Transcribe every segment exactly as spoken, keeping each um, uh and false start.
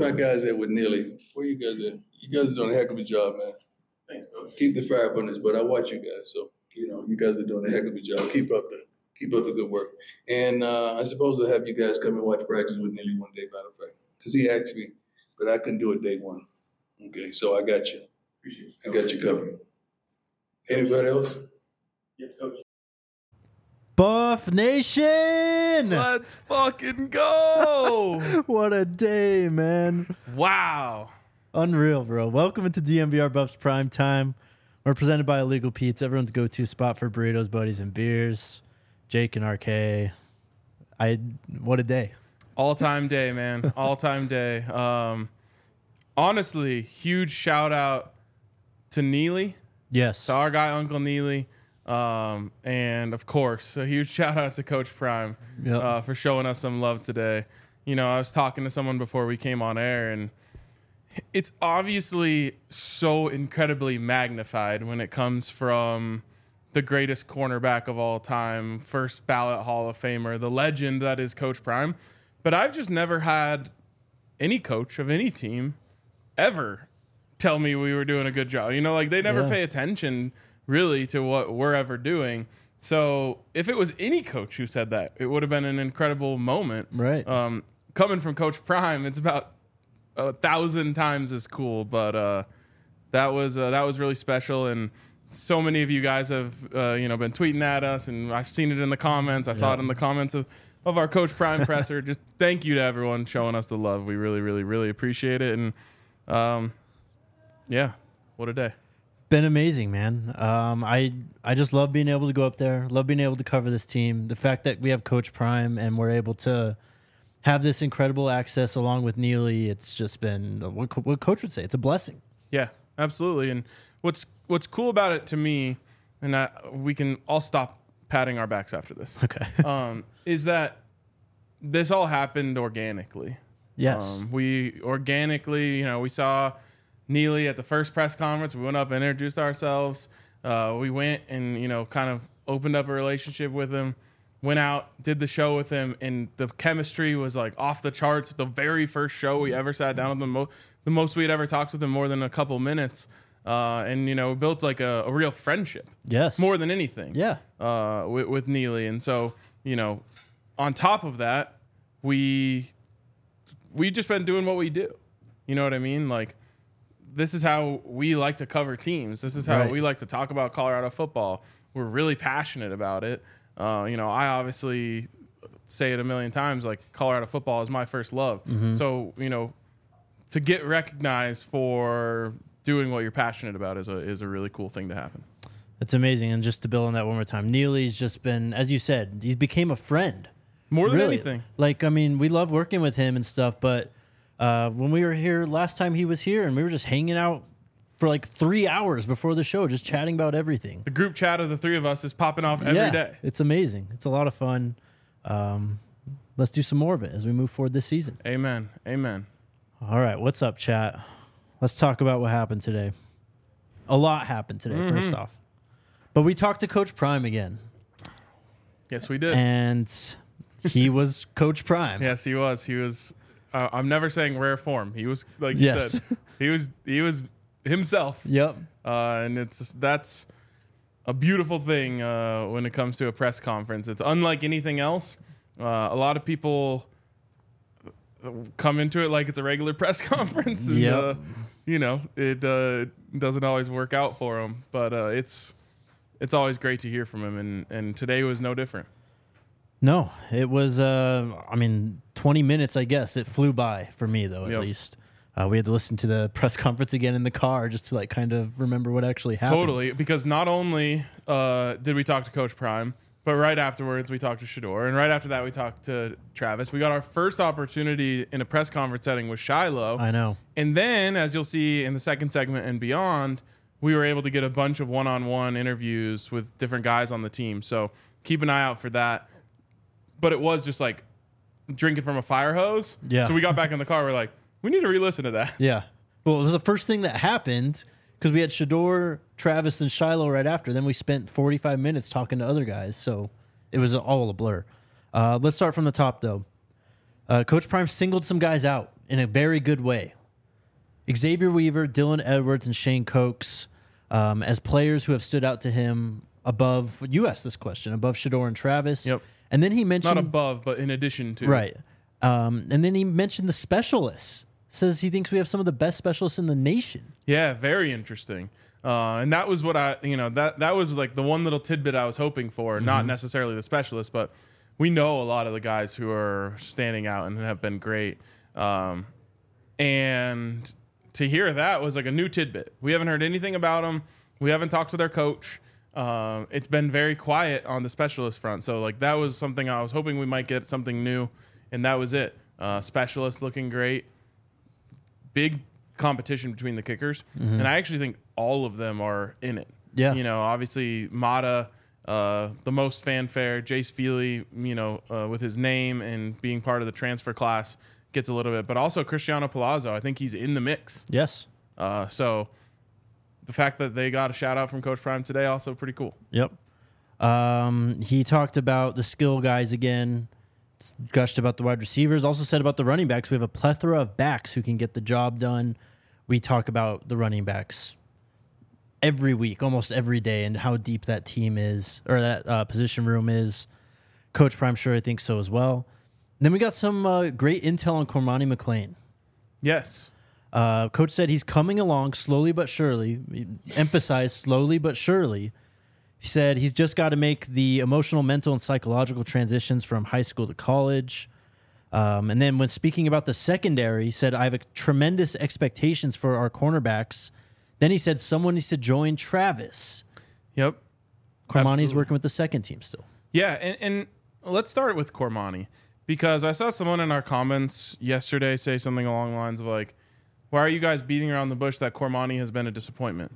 my guys at with Neely? Where you guys at? You guys are doing a heck of a job, man. Thanks, Coach. Keep the fire up on this, but I watch you guys, so you know you guys are doing a heck of a job. Keep up the keep up the good work. And uh, I suppose I'll have you guys come and watch practice with Neely one day, matter of fact, because he asked me, but I couldn't do it day one. Okay, so I got you. Appreciate I got you covered. Anybody else? Yeah, Coach. Buff Nation! Let's fucking go! What a day, man. Wow. Unreal, bro. Welcome into D M V R Buffs Prime Time. We're presented by Illegal Pete's, everyone's go-to spot for burritos, buddies, and beers. Jake and R K. I what a day. All-time day, man. All-time day. Um, honestly, huge shout-out to Neely, Yes. to our guy, Uncle Neely. Um, and, of course, a huge shout-out to Coach Prime Yep. uh, for showing us some love today. You know, I was talking to someone before we came on air, and it's obviously so incredibly magnified when it comes from the greatest cornerback of all time, first ballot Hall of Famer, the legend that is Coach Prime. But I've just never had any coach of any team ever tell me we were doing a good job. You know, like they never Yeah. pay attention really to what we're ever doing. So if it was any coach who said that, it would have been an incredible moment. Right. Um, coming from Coach Prime, it's about a thousand times as cool. But uh, that was uh, that was really special, and so many of you guys have uh, you know been tweeting at us, and I've seen it in the comments. I saw Yeah. it in the comments of, of our Coach Prime presser. Just thank you to everyone showing us the love. We really, really, really appreciate it. And um, yeah, what a day. Been amazing, man. Um, I I just love being able to go up there, love being able to cover this team. The fact that we have Coach Prime and we're able to have this incredible access along with Neely, it's just been what, co- what Coach would say. It's a blessing. Yeah, absolutely. And what's what's cool about it to me, and I, we can all stop patting our backs after this, Okay. um, is that this all happened organically. Yes. Um, we organically, you know, we saw Neely at the first press conference. We went up and introduced ourselves. Uh, we went and, you know, kind of opened up a relationship with him, went out, did the show with him, and the chemistry was like off the charts. The very first show we ever sat down with him, mo- the most we'd ever talked with him, more than a couple minutes. Uh, and, you know, we built like a, a real friendship yes. more than anything. Yeah. Uh, with, with Neely. And so, you know, on top of that, we we just been doing what we do. You know what I mean? Like, this is how we like to cover teams. This is how Right. we like to talk about Colorado football. We're really passionate about it. Uh, you know, I obviously say it a million times, like Colorado football is my first love. Mm-hmm. So, you know, to get recognized for doing what you're passionate about is a is a really cool thing to happen. It's amazing. And just to build on that one more time, Neely's just been, as you said, he's became a friend. More than Really. anything. Like, I mean, we love working with him and stuff, but uh, when we were here last time he was here and we were just hanging out for like three hours before the show, just chatting about everything. The group chat of the three of us is popping off every yeah, day. It's amazing. It's a lot of fun. Um, let's do some more of it as we move forward this season. Amen. Amen. All right. What's up, chat? Let's talk about what happened today. A lot happened today, Mm-hmm. first off. But we talked to Coach Prime again. Yes, we did. And he was Coach Prime. Yes, he was. He was. Uh, I'm never saying rare form. He was like you Yes. said. He was. He was himself. Yep. Uh, and it's that's a beautiful thing uh, when it comes to a press conference. It's unlike anything else. Uh, a lot of people come into it like it's a regular press conference, and Yep. uh, you know it uh, doesn't always work out for them. But uh, it's it's always great to hear from him, and and today was no different. No, it was, uh, I mean, twenty minutes, I guess. It flew by for me, though, at Yep. least. Uh, we had to listen to the press conference again in the car just to, like, kind of remember what actually happened. Totally, because not only uh, did we talk to Coach Prime, but right afterwards we talked to Shador, and right after that we talked to Travis. We got our first opportunity in a press conference setting with Shiloh. I know. And then, as you'll see in the second segment and beyond, we were able to get a bunch of one-on-one interviews with different guys on the team. So keep an eye out for that. But it was just like drinking from a fire hose. Yeah. So we got back in the car. We're like, we need to re-listen to that. Yeah. Well, it was the first thing that happened because we had Shador, Travis, and Shiloh right after. Then we spent forty-five minutes talking to other guys. So it was all a blur. Uh, let's start from the top, though. Uh, Coach Prime singled some guys out. in a very good way. Xavier Weaver, Dylan Edwards, and Shane Cokes um, as players who have stood out to him above, you asked this question, above Shedeur and Travis. Yep. And then he mentioned... Not above, but in addition to. Right. Um, and then he mentioned the specialists. Says he thinks we have some of the best specialists in the nation. Yeah, very interesting. Uh, and that was what I, you know, that that was like the one little tidbit I was hoping for, mm-hmm. not necessarily the specialist, but we know a lot of the guys who are standing out and have been great. Um, and to hear that was like a new tidbit. We haven't heard anything about them. We haven't talked to their coach. Uh, it's been very quiet on the specialist front. So like that was something I was hoping we might get something new, and that was it. Uh, specialists looking great. Big competition between the kickers, mm-hmm. and I actually think all of them are in it. Yeah, you know, obviously Mata, uh, the most fanfare. Jace Feely, you know, uh, with his name and being part of the transfer class, gets a little bit, but also Cristiano Palazzo. I think he's in the mix. Yes. Uh, so the fact that they got a shout out from Coach Prime today, also pretty cool. Yep. Um, he talked about the skill guys again. Gushed about the wide receivers, also said about the running backs. We have a plethora of backs who can get the job done. We talk about the running backs every week, almost every day, and how deep that team is, or that uh, position room is. Coach Prime sure I think so as well. And then we got some uh, great intel on Cormani McClain. Yes. Uh, Coach said he's coming along slowly but surely. He emphasized slowly but surely. He said he's just got to make the emotional, mental, and psychological transitions from high school to college. Um, and then when speaking about the secondary, he said, I have a tremendous expectations for our cornerbacks. Then he said someone needs to join Travis. Yep. Cormani's Absolutely. working with the second team still. Yeah, and, and let's start with Cormani, because I saw someone in our comments yesterday say something along the lines of like, why are you guys beating around the bush that Cormani has been a disappointment?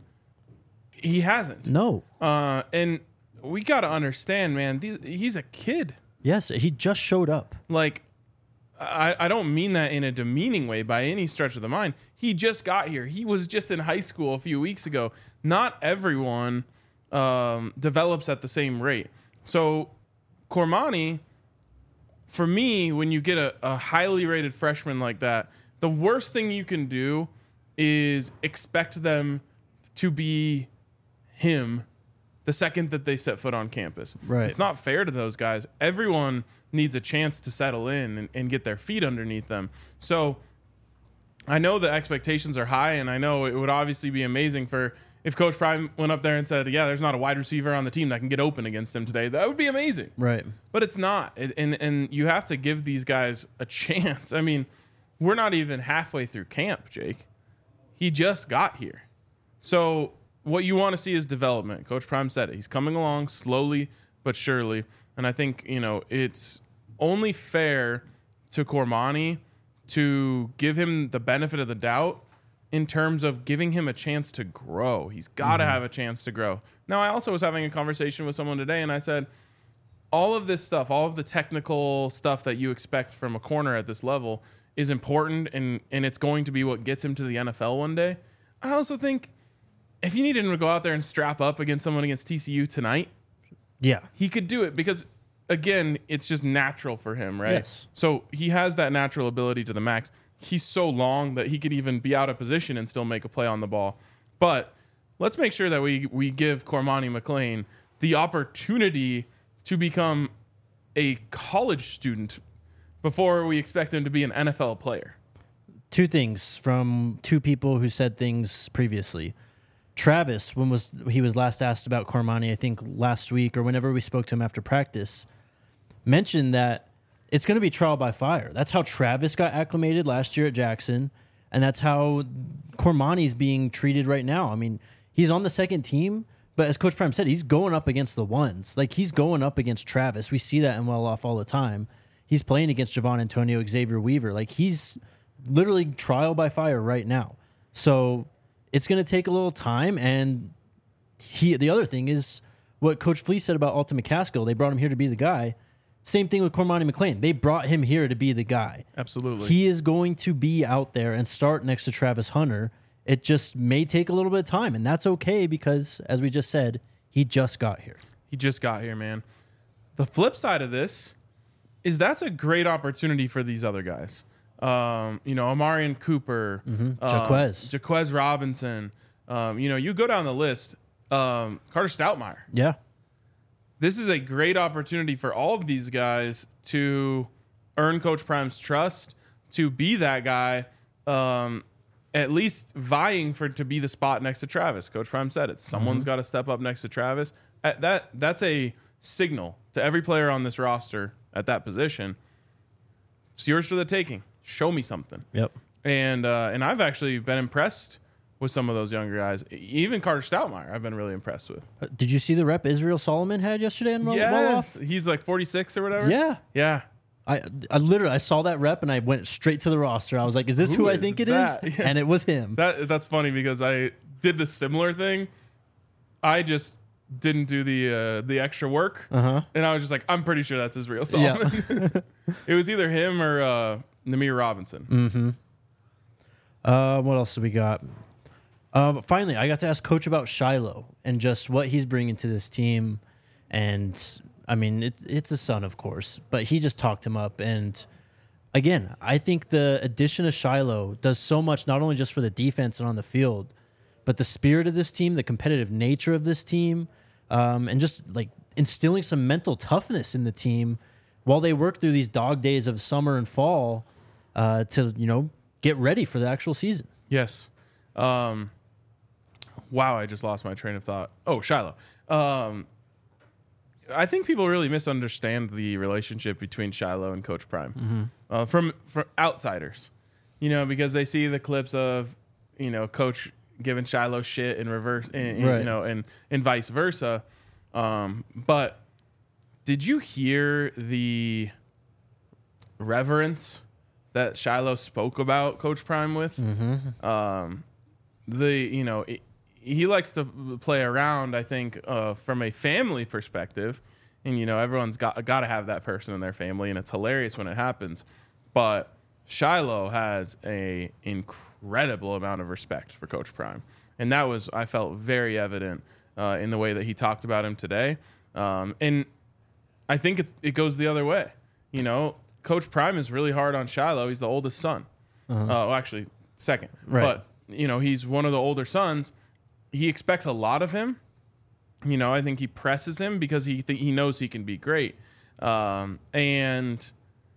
He hasn't. No. Uh, and we got to understand, man, th- he's a kid. Yes, he just showed up. Like, I, I don't mean that in a demeaning way by any stretch of the mind. He just got here. He was just in high school a few weeks ago. Not everyone um, develops at the same rate. So, Cormani, for me, when you get a, a highly rated freshman like that, the worst thing you can do is expect them to be him the second that they set foot on campus. Right. It's not fair to those guys. Everyone needs a chance to settle in and, and get their feet underneath them. So I know the expectations are high, and I know it would obviously be amazing for if Coach Prime went up there and said, yeah, there's not a wide receiver on the team that can get open against him today. That would be amazing. Right. But it's not. It, and, and you have to give these guys a chance. I mean, we're not even halfway through camp, Jake. He just got here. So what you want to see is development. Coach Prime said it. He's coming along slowly but surely. And I think, you know, it's only fair to Cormani to give him the benefit of the doubt in terms of giving him a chance to grow. He's got to mm-hmm. have a chance to grow. Now, I also was having a conversation with someone today, and I said, all of this stuff, all of the technical stuff that you expect from a corner at this level is important, and, and it's going to be what gets him to the N F L one day. I also think if you needed him to go out there and strap up against someone against T C U tonight, yeah, he could do it because, again, it's just natural for him, right? Yes. So he has that natural ability to the max. He's so long that he could even be out of position and still make a play on the ball. But let's make sure that we, we give Cormani McClain the opportunity to become a college student before we expect him to be an N F L player. Two things from two people who said things previously. Travis, when was he was last asked about Cormani, I think last week or whenever we spoke to him after practice, mentioned that it's going to be trial by fire. That's how Travis got acclimated last year at Jackson, and that's how Cormani's being treated right now. I mean, he's on the second team, but as Coach Prime said, he's going up against the ones. Like, he's going up against Travis. We see that in Well Off all the time. He's playing against Javon Antonio, Xavier Weaver. Like, he's literally trial by fire right now. So it's going to take a little time, and he. The other thing is what Coach Fleece said about Alton McCaskill. They brought him here to be the guy. Same thing with Cormani McClain. They brought him here to be the guy. Absolutely. He is going to be out there and start next to Travis Hunter. It just may take a little bit of time, and that's okay because, as we just said, he just got here. He just got here, man. The flip side of this is that's a great opportunity for these other guys. um, you know, Amarian Cooper, Mhm. um, Jaquez. Jaquez Robinson. Um, you know, you go down the list. Um, Carter Stoutmire. Yeah. This is a great opportunity for all of these guys to earn Coach Prime's trust, to be that guy, um, at least vying for to be the spot next to Travis. Coach Prime said it. Someone's got to step up next to Travis. At that that's a signal to every player on this roster at that position. It's yours for the taking. Show me something. Yep. And uh, and I've actually been impressed with some of those younger guys. Even Carter Stoutmire, I've been really impressed with. Uh, Did you see the rep Israel Solomon had yesterday in Well Yes, Off? he's like forty-six or whatever. Yeah. Yeah. I I literally I saw that rep and I went straight to the roster. I was like, "Is this who, Who I is think it that? is?" Yeah. And it was him. That that's funny because I did the similar thing. I just didn't do the uh, the extra work, Uh-huh. and I was just like, I'm pretty sure that's Israel Solomon. Yeah. It was either him or uh, Namir Robinson. Mm-hmm. Uh, what else do we got? Um, finally, I got to ask Coach about Shiloh and just what he's bringing to this team. And I mean, it, it's a son, of course, but he just talked him up. And again, I think the addition of Shiloh does so much, not only just for the defense and on the field, but the spirit of this team, the competitive nature of this team, um, and just like instilling some mental toughness in the team while they work through these dog days of summer and fall uh, to, you know, get ready for the actual season. Yes. Um, wow, I just lost my train of thought. Oh, Shiloh. Um, I think people really misunderstand the relationship between Shiloh and Coach Prime Mm-hmm. uh, from from outsiders, you know, because they see the clips of, you know, Coach giving Shiloh shit in reverse, and, Right. you know, and and vice versa. Um, but did you hear the reverence that Shiloh spoke about Coach Prime with? Mm-hmm. Um, the you know it, he likes to play around. I think uh, from a family perspective, and you know everyone's got got to have that person in their family, and it's hilarious when it happens. But Shiloh has a incredible amount of respect for Coach Prime, and that was I felt very evident uh, in the way that he talked about him today. Um, and I think it it goes the other way. You know, Coach Prime is really hard on Shiloh. He's the oldest son. Uh-huh. Uh, well, actually, second. Right. But you know, he's one of the older sons. He expects a lot of him. You know, I think he presses him because he th- he knows he can be great. Um, and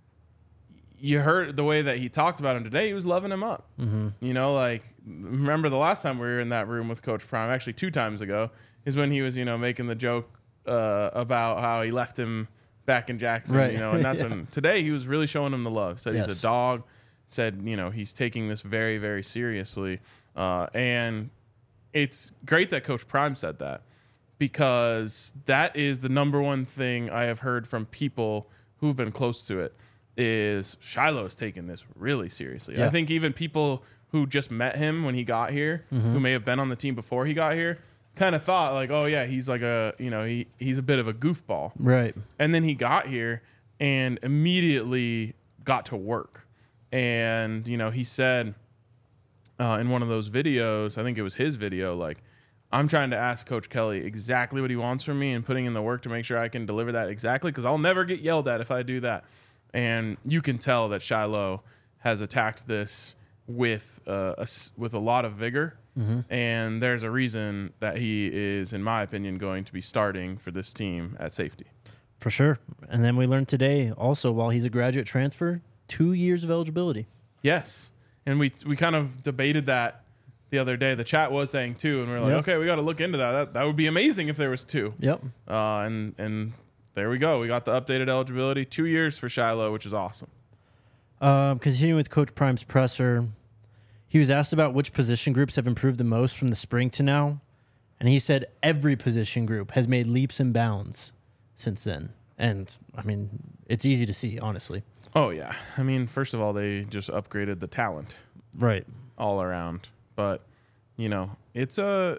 you heard the way that he talked about him today. He was loving him up. Mm-hmm. You know, like remember the last time we were in that room with Coach Prime, actually two times ago, is when he was you know making the joke uh, about how he left him back in Jackson. Right. You know, and that's Yeah. when today he was really showing him the love. Said Yes. he's a dog. Said you know he's taking this very very seriously, uh, and it's great that Coach Prime said that because that is the number one thing I have heard from people who've been close to it is Shiloh is taking this really seriously. Yeah. I think even people who just met him when he got here, Mm-hmm. who may have been on the team before he got here, kind of thought like, oh yeah, he's like a, you know, he, he's a bit of a goofball. Right. And then he got here and immediately got to work. And, you know, he said uh, in one of those videos, I think it was his video, like, I'm trying to ask Coach Kelly exactly what he wants from me and putting in the work to make sure I can deliver that exactly because I'll never get yelled at if I do that. And you can tell that Shiloh has attacked this with uh, a, s- with a lot of vigor. Mm-hmm. And there's a reason that he is, in my opinion, going to be starting for this team at safety. For sure. And then we learned today also, while he's a graduate transfer, two years of eligibility. Yes. And we we kind of debated that the other day. The chat was saying two, and we are like, Yep. okay, we got to look into that. that. That would be amazing if there was two. Yep. Uh, and and there we go. We got the updated eligibility. Two years for Shiloh, which is awesome. Um, continuing with Coach Prime's presser, he was asked about which position groups have improved the most from the spring to now, and he said every position group has made leaps and bounds since then. And, I mean, it's easy to see, honestly. Oh, yeah. I mean, first of all, they just upgraded the talent Right. all around. But, you know, it's a...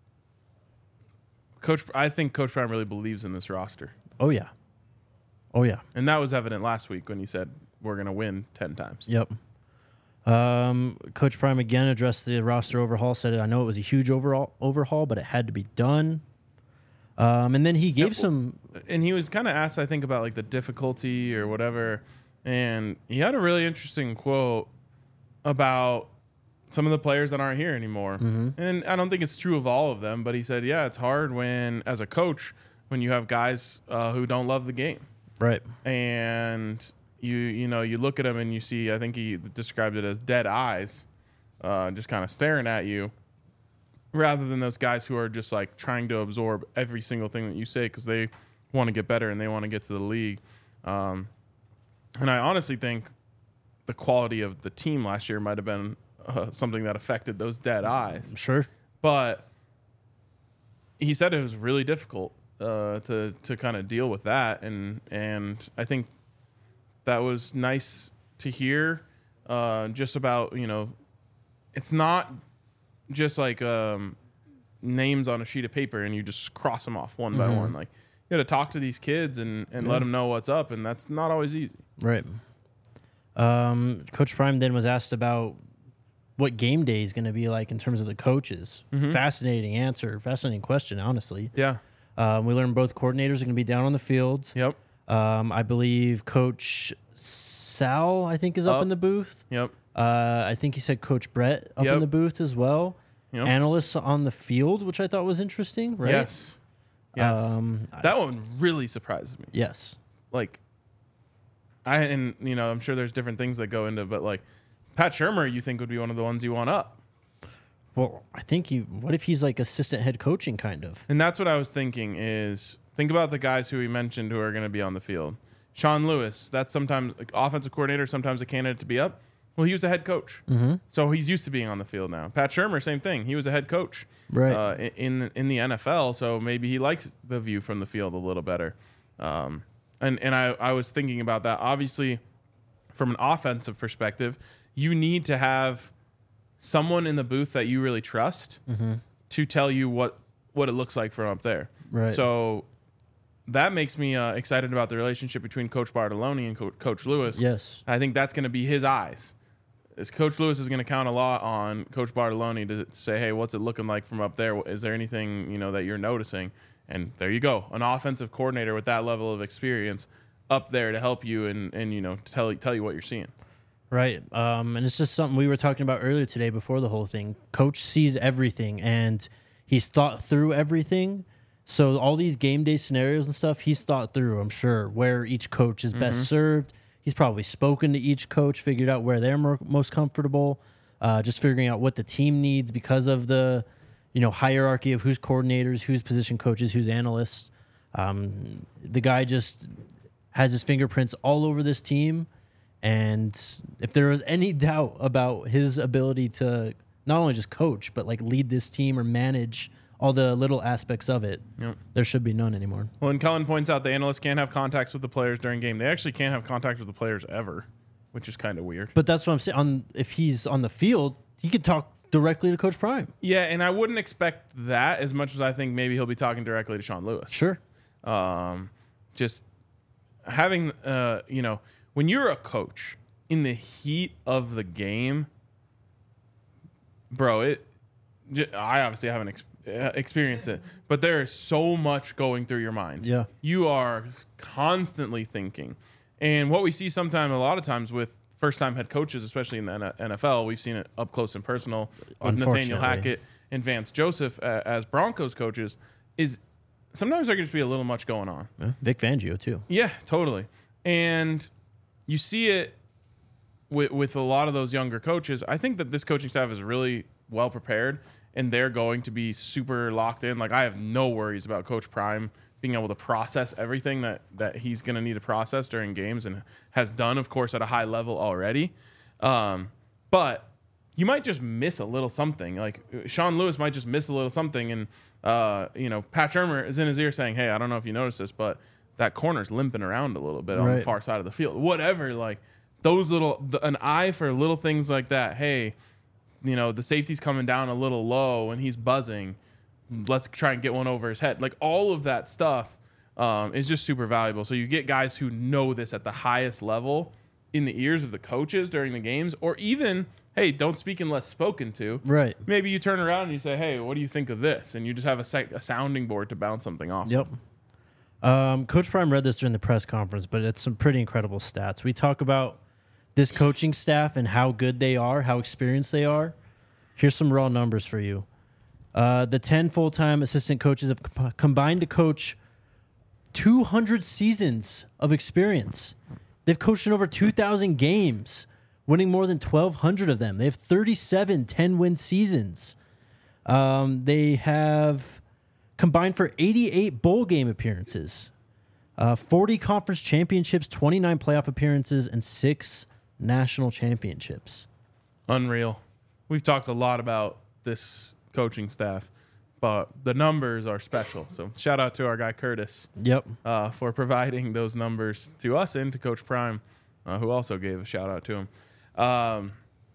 Coach. I think Coach Prime really believes in this roster. Oh, yeah. Oh, yeah. And that was evident last week when he said we're going to win ten times. Yep. Um, Coach Prime again addressed the roster overhaul, said, I know it was a huge overall overhaul, but it had to be done. Um, and then he gave Yep. some... And he was kind of asked, I think, about like the difficulty or whatever. And he had a really interesting quote about some of the players that aren't here anymore. Mm-hmm. And I don't think it's true of all of them, but he said, yeah, it's hard when, as a coach, when you have guys uh, who don't love the game. Right. And you, you know, you look at them and you see, I think he described it as dead eyes, uh, just kind of staring at you, rather than those guys who are just like trying to absorb every single thing that you say because they want to get better and they want to get to the league. Um, and I honestly think the quality of the team last year might have been uh, something that affected those dead eyes. Sure. But he said it was really difficult uh, to to kind of deal with that, and and I think that was nice to hear. Uh, just about, you know, it's not just like um, names on a sheet of paper and you just cross them off one by Mhm. one. Like, you got to talk to these kids and and let Yeah. them know what's up, and that's not always easy. Right. Um, Coach Prime then was asked about what game day is going to be like in terms of the coaches. Mhm. Fascinating answer. Fascinating question, honestly. Yeah. Um, we learned both coordinators are going to be down on the field. Yep. Um, I believe Coach Sal, I think, is up Up. in the booth. Yep. Uh, I think he said Coach Brett up Yep. in the booth as well. Yep. Analysts on the field, which I thought was interesting, right? Yes. Yes. Um, that one really surprises me. yes. Like, I and you know, I'm sure there's different things that go into, but like Pat Shermer, you think would be one of the ones you want up, Well, I think he. What if he's like assistant head coaching, kind of? and that's what I was thinking. Is think about the guys who we mentioned who are going to be on the field. Sean Lewis, that's sometimes like, offensive coordinator, sometimes a candidate to be up. Well, he was a head coach, Mm-hmm. so he's used to being on the field now. Pat Shermer, same thing. He was a head coach, Right. uh, in in the N F L, so maybe he likes the view from the field a little better. Um, and and I, I was thinking about that. Obviously, from an offensive perspective, you need to have someone in the booth that you really trust Mm-hmm. to tell you what, what it looks like from up there. Right. So that makes me uh, excited about the relationship between Coach Bartoloni and Co- Coach Lewis. Yes. I think that's going to be his eyes. Is Coach Lewis is going to count a lot on Coach Bartoloni to say, hey, what's it looking like from up there? Is there anything, you know, that you're noticing? And there you go, an offensive coordinator with that level of experience up there to help you and, and you know, tell tell you what you're seeing. Right. Um, and it's just something we were talking about earlier today before the whole thing. Coach sees everything and he's thought through everything. So all these game day scenarios and stuff, he's thought through, I'm sure, where each coach is best served. He's probably spoken to each coach, figured out where they're more, most comfortable, uh, just figuring out what the team needs because of the, you know, hierarchy of who's coordinators, who's position coaches, who's analysts. Um, the guy just has his fingerprints all over this team. And if there was any doubt about his ability to not only just coach, but like lead this team or manage all the little aspects of it, Yep. there should be none anymore. Well, and Cullen points out the analysts can't have contacts with the players during game. They actually can't have contact with the players ever, which is kind of weird. But that's what I'm saying. On if he's on the field, he could talk directly to Coach Prime. Yeah, and I wouldn't expect that as much as I think maybe he'll be talking directly to Sean Lewis. Sure. Um, just having, uh, you know, when you're a coach in the heat of the game, bro, it. j- I obviously haven't ex- uh, experienced it, but there is so much going through your mind. Yeah. You are constantly thinking, and what we see sometimes, a lot of times with first-time head coaches, especially in the N F L, we've seen it up close and personal with Nathaniel Unfortunately. Hackett and Vance Joseph uh, as Broncos coaches. Is sometimes there can just be a little much going on. Yeah. Vic Fangio too. Yeah, totally. And you see it with with a lot of those younger coaches. I think that this coaching staff is really well prepared, and they're going to be super locked in. Like, I have no worries about Coach Prime being able to process everything that that he's going to need to process during games, and has done, of course, at a high level already. Um, but you might just miss a little something. Like, Sean Lewis might just miss a little something, and uh, you know, Pat Shermer is in his ear saying, "Hey, I don't know if you noticed this, but that corner's limping around a little bit on the Right. far side of the field." Whatever, like those little, the, an eye for little things like that. Hey, you know, the safety's coming down a little low and he's buzzing. Let's try and get one over his head. Like, all of that stuff um, is just super valuable. So you get guys who know this at the highest level in the ears of the coaches during the games, or even, hey, don't speak unless spoken to. Right. Maybe you turn around and you say, hey, what do you think of this? And you just have a, sec- a sounding board to bounce something off. Yep. Um, Coach Prime read this during the press conference, but it's some pretty incredible stats. We talk about this coaching staff and how good they are, how experienced they are. Here's some raw numbers for you. Uh, the ten full-time assistant coaches have com- combined to coach two hundred seasons of experience. They've coached in over two thousand games, winning more than twelve hundred of them. They have thirty-seven ten-win seasons. Um, they have combined for eighty-eight bowl game appearances, uh, forty conference championships, twenty-nine playoff appearances, and six national championships. Unreal. We've talked a lot about this coaching staff, but the numbers are special. So shout out to our guy Curtis Yep. uh, for providing those numbers to us and to Coach Prime, uh, who also gave a shout out to him. Um,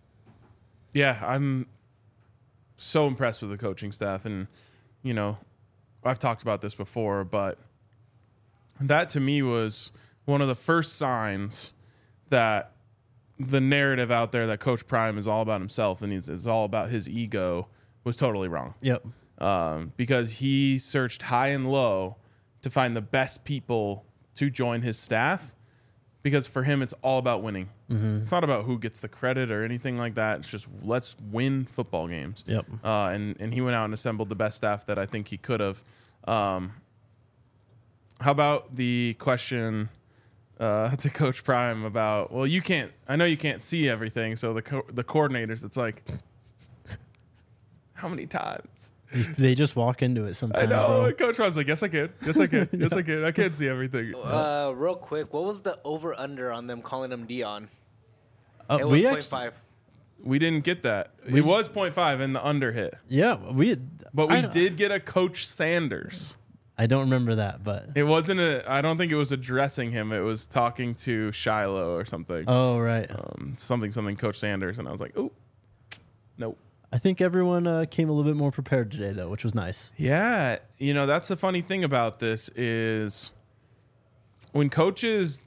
yeah, I'm so impressed with the coaching staff. And, you know, I've talked about this before, but that to me was one of the first signs that the narrative out there that Coach Prime is all about himself and he's, is all about his ego was totally wrong. Yep. Um, because he searched high and low to find the best people to join his staff, because for him, it's all about winning. Mm-hmm. It's not about who gets the credit or anything like that. It's just let's win football games. Yep. Uh, and, and he went out and assembled the best staff that I think he could have. Um, how about the question uh, to Coach Prime about, well, you can't, I know you can't see everything. So the co- the coordinators, it's like, how many times? They just walk into it sometimes. I know. Bro. Coach Prime's like, yes, I can. Yes, I can. Yes, I can. I can't see everything. Uh, real quick, what was the over under on them calling him Dion? Uh, It was we point actually, five. We didn't get that. We- it was point five and the under hit. yeah, we. But we I, did get a Coach Sanders. I don't remember that, but It wasn't a, I don't think it was addressing him. It was talking to Shiloh or something. oh right. Um, something, something, Coach Sanders. And I was like, oh, nope. I think everyone uh, came a little bit more prepared today, though, which was nice. Yeah, you know, that's the funny thing about this is when coaches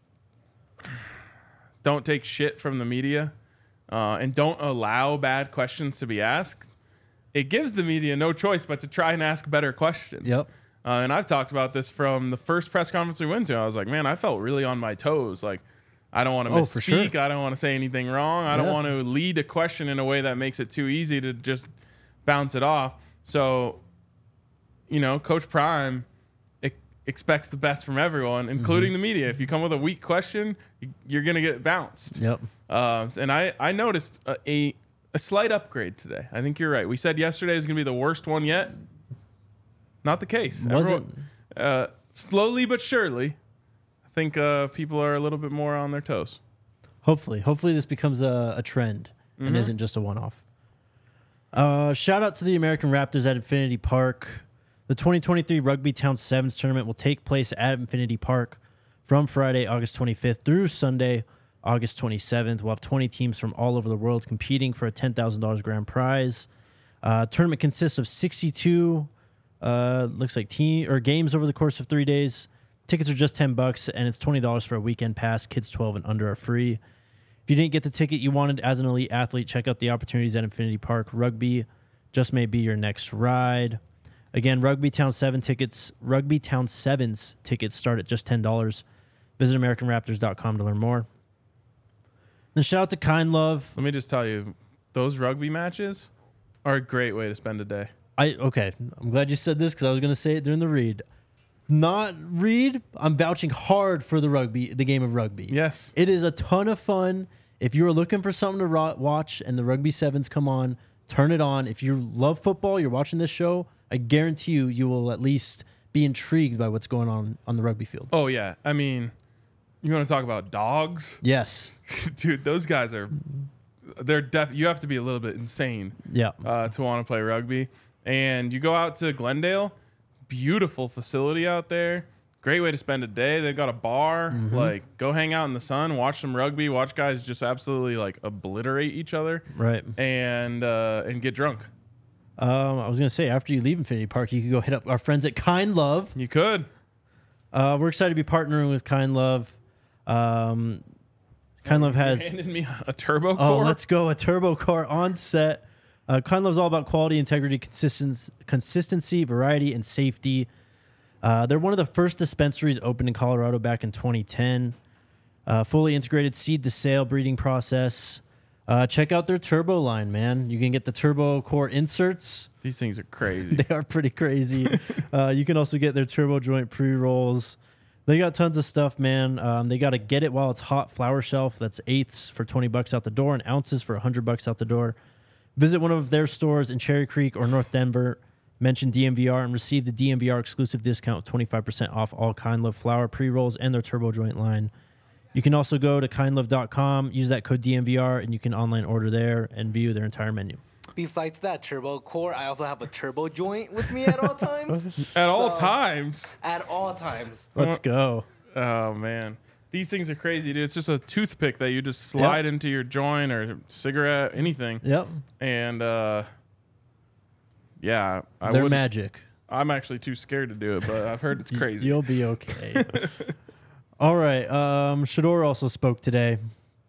don't take shit from the media uh, and don't allow bad questions to be asked, it gives the media no choice but to try and ask better questions. Yep. Uh, and I've talked about this from the first press conference we went to. I was like, man, I felt really on my toes. Like, I don't want to Oh, for misspeak. sure. I don't want to say anything wrong. I don't Yeah. want to lead a question in a way that makes it too easy to just bounce it off. So, you know, Coach Prime e- expects the best from everyone, including Mm-hmm. the media. If you come with a weak question, y- you're going to get bounced. Yep. Um, and I, I noticed a, a, a slight upgrade today. I think you're right. We said yesterday was going to be the worst one yet. Not the case. Wasn't. Everyone- uh, slowly but surely, I think uh, people are a little bit more on their toes. Hopefully, hopefully this becomes a, a trend and Mhm. isn't just a one-off. Uh, shout out to the American Raptors at Infinity Park. The twenty twenty-three Rugby Town Sevens tournament will take place at Infinity Park from Friday, August twenty-fifth through Sunday, August twenty-seventh. We'll have twenty teams from all over the world competing for a ten thousand dollars grand prize. Uh, tournament consists of sixty-two, uh, looks like team or games over the course of three days. Tickets are just ten bucks, and it's twenty dollars for a weekend pass. Kids twelve and under are free. If you didn't get the ticket you wanted as an elite athlete, check out the opportunities at Infinity Park. Rugby just may be your next ride. Again, Rugby Town seven tickets, Rugby Town sevens tickets start at just ten dollars. Visit American Raptors dot com to learn more. Then shout out to Kind Love. Let me just tell you, those rugby matches are a great way to spend a day. I okay. I'm glad you said this because I was going to say it during the read. Not read. I'm vouching hard for the rugby, the game of rugby. Yes. It is a ton of fun. If you're looking for something to ro- watch and the Rugby Sevens come on, turn it on. If you love football, you're watching this show, I guarantee you, you will at least be intrigued by what's going on on the rugby field. Oh, yeah. I mean, you want to talk about dogs? Yes. Dude, those guys are, they're def, you have to be a little bit insane Yeah. uh, to want to play rugby. And you go out to Glendale, beautiful facility out there. Great way to spend a day. They've got a bar. Mm-hmm. Like, go hang out in the sun, watch some rugby, watch guys just absolutely like obliterate each other, Right. and uh, and get drunk. Um, I was going to say, after you leave Infinity Park, you could go hit up our friends at Kind Love. You could. Uh, we're excited to be partnering with Kind Love. Um, Kind Love has... handed me a turbo core. Oh, let's go. A turbo car on set. Uh, Kind Love's all about quality, integrity, consistency, consistency, variety, and safety. Uh, they're one of the first dispensaries opened in Colorado back in twenty ten. Uh, fully integrated seed to sale breeding process. Uh, check out their turbo line, man. You can get the turbo core inserts. These things are crazy. They are pretty crazy. uh, you can also get their turbo joint pre-rolls. They got tons of stuff, man. Um, they got a get it while it's hot flower shelf. That's eighths for twenty bucks out the door and ounces for one hundred bucks out the door. Visit one of their stores in Cherry Creek or North Denver. Mention D M V R and receive the D M V R exclusive discount of twenty-five percent off all Kind Love flower pre-rolls and their turbo joint line. You can also go to kind love dot com, use that code D M V R, and you can online order there and view their entire menu. Besides that turbo core, I also have a turbo joint with me at all times. At all So- times. At all times. Let's go. Oh, man. These things are crazy, dude. It's just a toothpick that you just slide Yep. into your joint or cigarette, anything. Yep. And, uh, yeah, I They're would. magic. I'm actually too scared to do it, but I've heard it's crazy. You'll be okay. All right. Um, Shador also spoke today.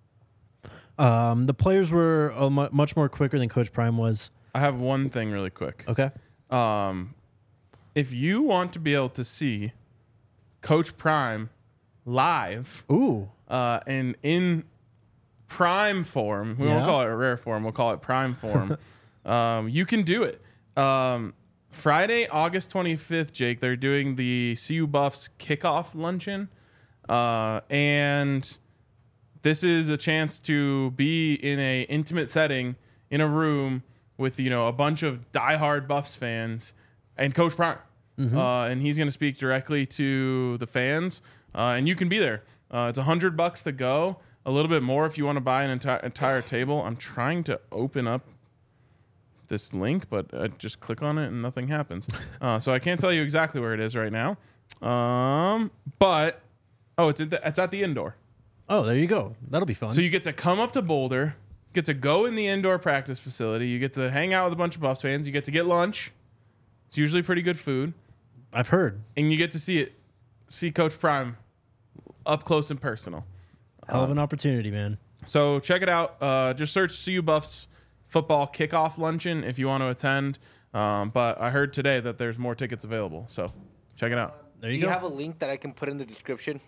Um, the players were uh, mu- much more quicker than Coach Prime was. I have one thing really quick. Okay. Um, if you want to be able to see Coach Prime live Ooh. uh, and in prime form, we Yeah. won't call it rare form, we'll call it prime form, um, you can do it. Um, Friday, August twenty-fifth, Jake, they're doing the C U Buffs kickoff luncheon. Uh, and this is a chance to be in a intimate setting in a room with, you know, a bunch of diehard Buffs fans and Coach Prime. Mm-hmm. Uh, and he's going to speak directly to the fans. Uh, and you can be there. Uh, it's a hundred bucks to go. A little bit more if you want to buy an enti- entire table. I'm trying to open up this link, but I just click on it and nothing happens. Uh, so I can't tell you exactly where it is right now. Um, but oh, it's at the, it's at the indoor. Oh, there you go. That'll be fun. So you get to come up to Boulder, get to go in the indoor practice facility. You get to hang out with a bunch of Buffs fans. You get to get lunch. It's usually pretty good food, I've heard. and you get to see it, see Coach Prime up close and personal. Hell of an opportunity, man. So check it out. Uh, just search C U Buffs football kickoff luncheon if you want to attend. Um, but I heard today that there's more tickets available. So check it out. There Do you you go. have a link that I can put in the description?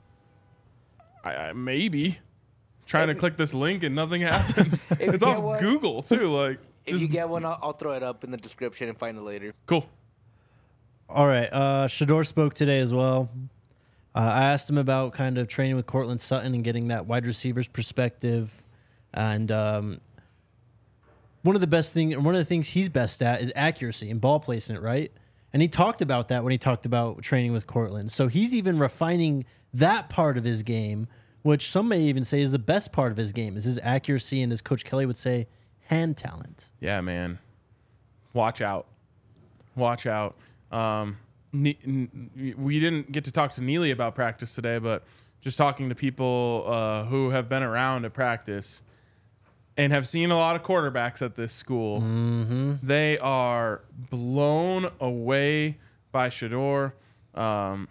I, I maybe trying to If- click this link and nothing happens. you It's get off one- Google too. Like, If just you get one, I'll, I'll throw it up in the description and find it later. cool. All right. Uh, Shador spoke today as well. Uh, I asked him about kind of training with Cortland Sutton and getting that wide receiver's perspective. And um, one of the best thing, one of the things he's best at is accuracy and ball placement, right? And he talked about that when he talked about training with Cortland. So he's even refining that part of his game, which some may even say is the best part of his game, is his accuracy and, as Coach Kelly would say, hand talent. Yeah, man. Watch out. Watch out. Um, Ne- n- we didn't get to talk to Neely about practice today, but just talking to people uh, who have been around at practice and have seen a lot of quarterbacks at this school, Mm-hmm. they are blown away by Shador. Um,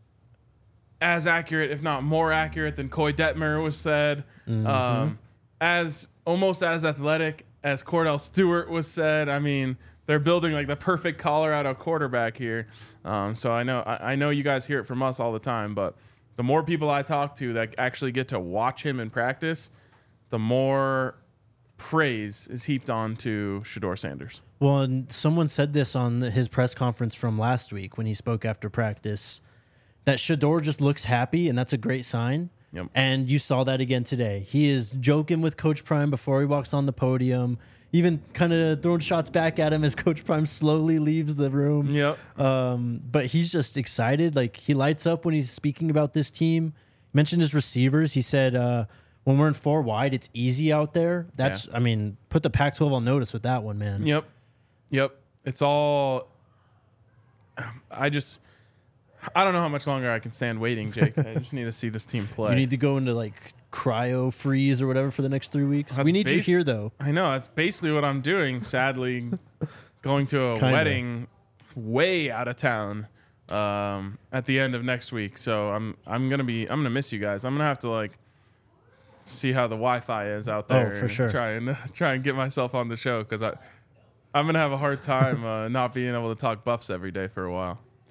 as accurate, if not more accurate, than Coy Detmer was said. Mm-hmm. Um, as almost as athletic as Cordell Stewart was said. I mean, they're building like the perfect Colorado quarterback here. Um, so I know I, I know you guys hear it from us all the time, but the more people I talk to that actually get to watch him in practice, the more praise is heaped on to Shador Sanders. Well, and someone said this on his press conference from last week when he spoke after practice, that Shador just looks happy, and that's a great sign. Yep. And you saw that again today. He is joking with Coach Prime before he walks on the podium, even kind of throwing shots back at him as Coach Prime slowly leaves the room. Yep. Um, but he's just excited. Like, he lights up when he's speaking about this team. He mentioned his receivers. He said, uh, when we're in four wide, it's easy out there. That's, I mean, put the Pac twelve on notice with that one, man. Yep. Yep. It's all. I just. I don't know how much longer I can stand waiting, Jake. I just need to see this team play. You need to go into like cryo freeze or whatever for the next three weeks. That's we need you base- here, though. I know. That's basically what I'm doing. Sadly, going to a Kinda. wedding way out of town um, at the end of next week. So I'm I'm gonna be I'm gonna miss you guys. I'm gonna have to like see how the Wi-Fi is out there. Oh, for and sure. Try and try and get myself on the show because I I'm gonna have a hard time uh, not being able to talk Buffs every day for a while.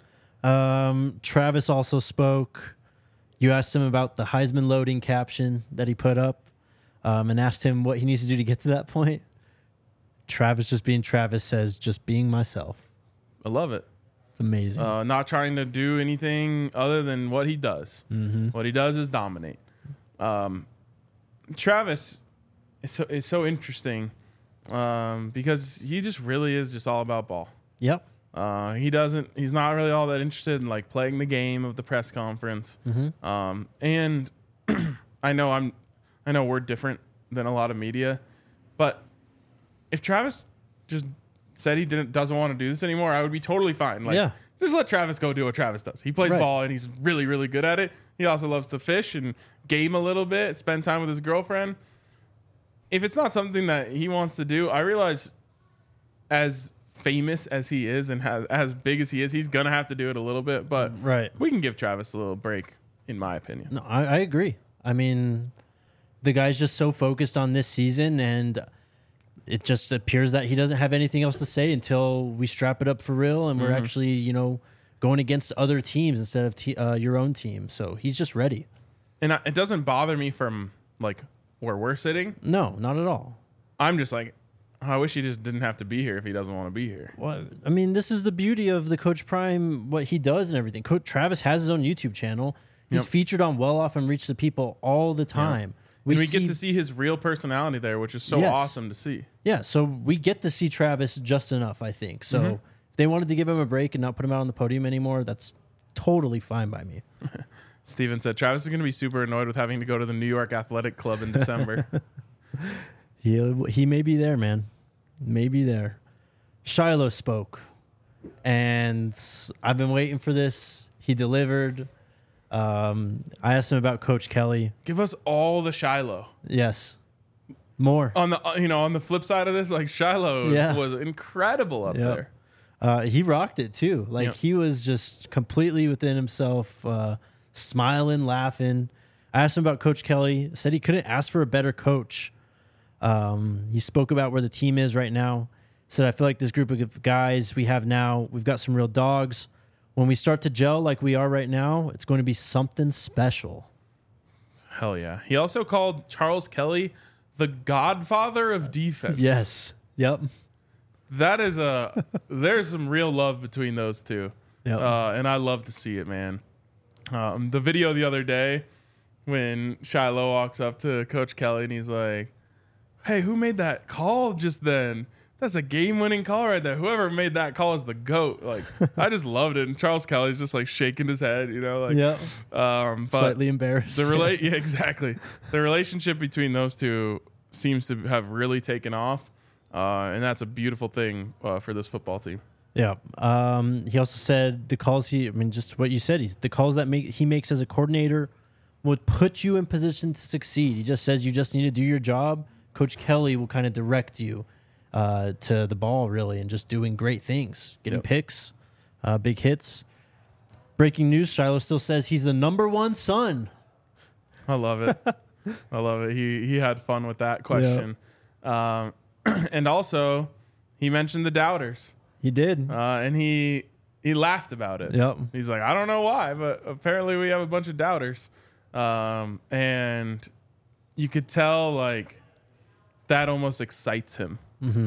Um, Travis also spoke. You asked him about the Heisman loading caption that he put up, um, and asked him what he needs to do to get to that point. Travis, just being Travis, says, just being myself. I love it. It's amazing. Uh, not trying to do anything other than what he does. Mm-hmm. What he does is dominate. Um, Travis is so, is so interesting um, because he just really is just all about ball. Yep. Uh, he doesn't. He's not really all that interested in like playing the game of the press conference. Mm-hmm. Um, and I know I'm. I know we're different than a lot of media, but if Travis just said he didn't doesn't want to do this anymore, I would be totally fine. Like, Yeah. just let Travis go do what Travis does. He plays Right. ball and he's really, really good at it. He also loves to fish and game a little bit, spend time with his girlfriend. If it's not something that he wants to do, I realize as famous as he is and has, as big as he is, he's going to have to do it a little bit. But Right. we can give Travis a little break, in my opinion. No, I, I agree. I mean, the guy's just so focused on this season, and it just appears that he doesn't have anything else to say until we strap it up for real and we're Mm-hmm. actually, you know, going against other teams instead of te- uh, your own team. So he's just ready. And I, it doesn't bother me from like where we're sitting. No, not at all. I'm just like, oh, I wish he just didn't have to be here if he doesn't want to be here. Well, I mean, this is the beauty of the Coach Prime, what he does and everything. Coach Travis has his own YouTube channel. He's Yep. featured on Well Off and Reach the People all the time. We, and we get to see his real personality there, which is so Yes. awesome to see. Yeah, so we get to see Travis just enough, I think. So Mm-hmm. if they wanted to give him a break and not put him out on the podium anymore, that's totally fine by me. Steven said Travis is going to be super annoyed with having to go to the New York Athletic Club in December. He he may be there, man. May be there. Shiloh spoke, and I've been waiting for this. He delivered. Um, I asked him about Coach Kelly. Give us all the Shiloh. Yes, more. On the uh, you know on the flip side of this, like Shiloh was, Yeah. was incredible up Yep. there. Uh, he rocked it too. Like Yep. he was just completely within himself, uh, smiling, laughing. I asked him about Coach Kelly. Said he couldn't ask for a better coach. Um, he spoke about where the team is right now. Said I feel like this group of guys we have now, we've got some real dogs. When we start to gel like we are right now, it's going to be something special. Hell yeah. He also called Charles Kelly the godfather of defense. Yes. Yep. That is a there's some real love between those two. Yep. Uh, and I love to see it, man. Um, the video the other day when Shiloh walks up to Coach Kelly and he's like, hey, who made that call just then? That's a game-winning call right there. Whoever made that call is the GOAT. Like, I just loved it. And Charles Kelly's just like shaking his head, you know, like, Yep. um, but Slightly embarrassed. the relate, yeah, exactly. The relationship between those two seems to have really taken off, uh, and that's a beautiful thing uh, for this football team. Yeah. Um, he also said the calls he, I mean, just what you said, he's the calls that make, he makes as a coordinator would put you in position to succeed. He just says you just need to do your job. Coach Kelly will kind of direct you uh, to the ball, really, and just doing great things, getting Yep. picks, uh, big hits. Breaking news: Shiloh still says he's the number one son. I love it. I love it. He he had fun with that question, um, and also he mentioned the doubters, He did. uh, and he he laughed about it. Yep. He's like, I don't know why, but apparently we have a bunch of doubters, um, and you could tell like that almost excites him, Mm-hmm.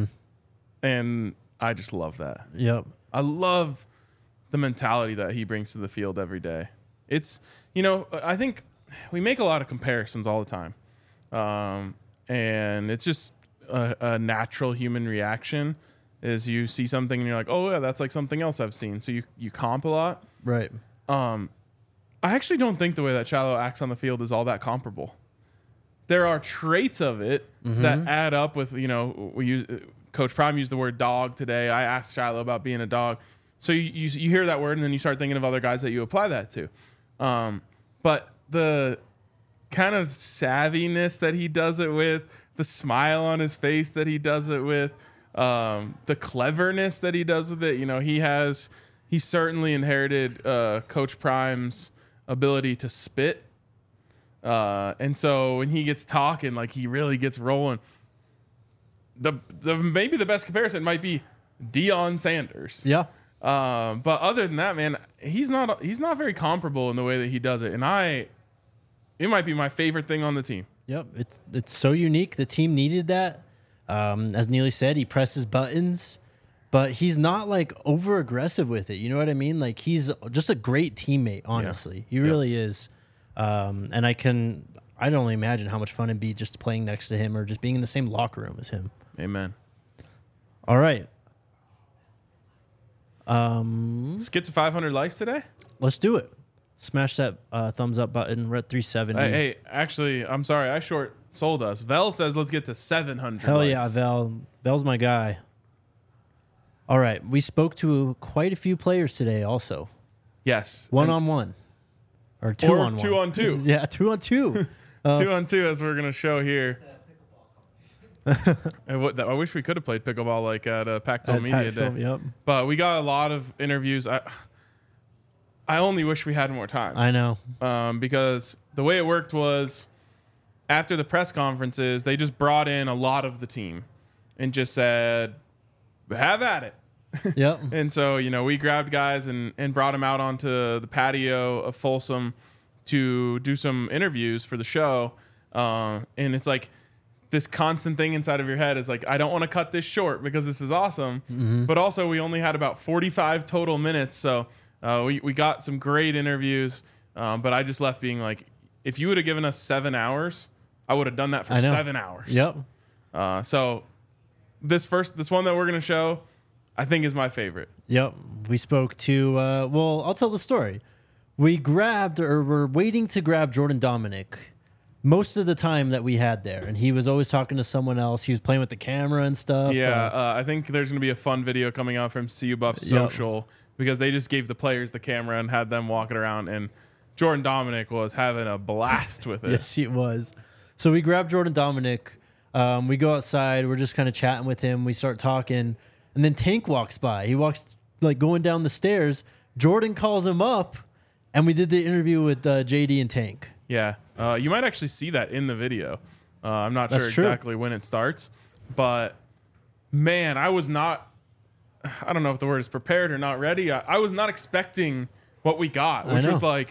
and I just love that. Yep. I love the mentality that he brings to the field every day. It's, you know, I think we make a lot of comparisons all the time. Um, and it's just a, a natural human reaction is you see something and you're like, oh yeah, that's like something else I've seen. So you, you comp a lot. Right. Um, I actually don't think the way that Shiloh acts on the field is all that comparable. There are traits of it that add up with, you know, we use, Coach Prime used the word dog today. I asked Shiloh about being a dog. So you, you you hear that word and then you start thinking of other guys that you apply that to. Um, but the kind of savviness that he does it with, the smile on his face that he does it with, um, the cleverness that he does with it, you know, he has, he certainly inherited uh, Coach Prime's ability to spit. Uh, and so when he gets talking, like he really gets rolling. The the maybe the best comparison might be Deion Sanders. Yeah. Um, but other than that, man, he's not he's not very comparable in the way that he does it, and I, it might be my favorite thing on the team. Yep, it's it's so unique. The team needed that. Um, as Neely said, he presses buttons, but he's not like over aggressive with it. You know what I mean? Like he's just a great teammate. Honestly, yeah. he really yeah. is. Um, and I can I don't only imagine how much fun it'd be just playing next to him or just being in the same locker room as him. Amen. All right. Um, let's get to five hundred likes today. Let's do it. Smash that uh, thumbs up button. We're at three seventy. Hey, hey, actually, I'm sorry. I short sold us. Vel says let's get to seven hundred. Hell likes. yeah, Vel. Vel's my guy. All right. We spoke to quite a few players today also. Yes. One and on one. Or two or on one. two on two. Yeah, two on two. Uh, two on two, as we're going to show here. And what, I wish we could have played pickleball like at a Pac twelve Media Pac-twelve, Day. Yep. But we got a lot of interviews. I I only wish we had more time. I know. Um, because the way it worked was after the press conferences, they just brought in a lot of the team and just said, have at it. Yep. And so, you know, we grabbed guys and, and brought them out onto the patio of Folsom to do some interviews for the show. Uh, and it's like, this constant thing inside of your head is like, I don't want to cut this short because this is awesome. Mm-hmm. But also we only had about forty-five total minutes. So uh, we, we got some great interviews. Um, but I just left being like, if you would have given us seven hours, I would have done that for seven hours. Yep. Uh, so this first, this one that we're going to show, I think is my favorite. Yep. We spoke to, uh, well, I'll tell the story. We grabbed or we're waiting to grab Jordan Dominic most of the time that we had there, and he was always talking to someone else. He was playing with the camera and stuff. Yeah, uh, uh, I think there's going to be a fun video coming out from C U Buff Social yep. because they just gave the players the camera and had them walking around, and Jordan Dominic was having a blast with it. Yes, he was. So we grabbed Jordan Dominic. Um, we go outside. We're just kind of chatting with him. We start talking, and then Tank walks by. He walks like going down the stairs. Jordan calls him up, and we did the interview with uh, J D and Tank. Yeah, uh, you might actually see that in the video. Uh, I'm not That's sure true. exactly when it starts, but man, I was not, I don't know if the word is prepared or not ready. I, I was not expecting what we got, which was like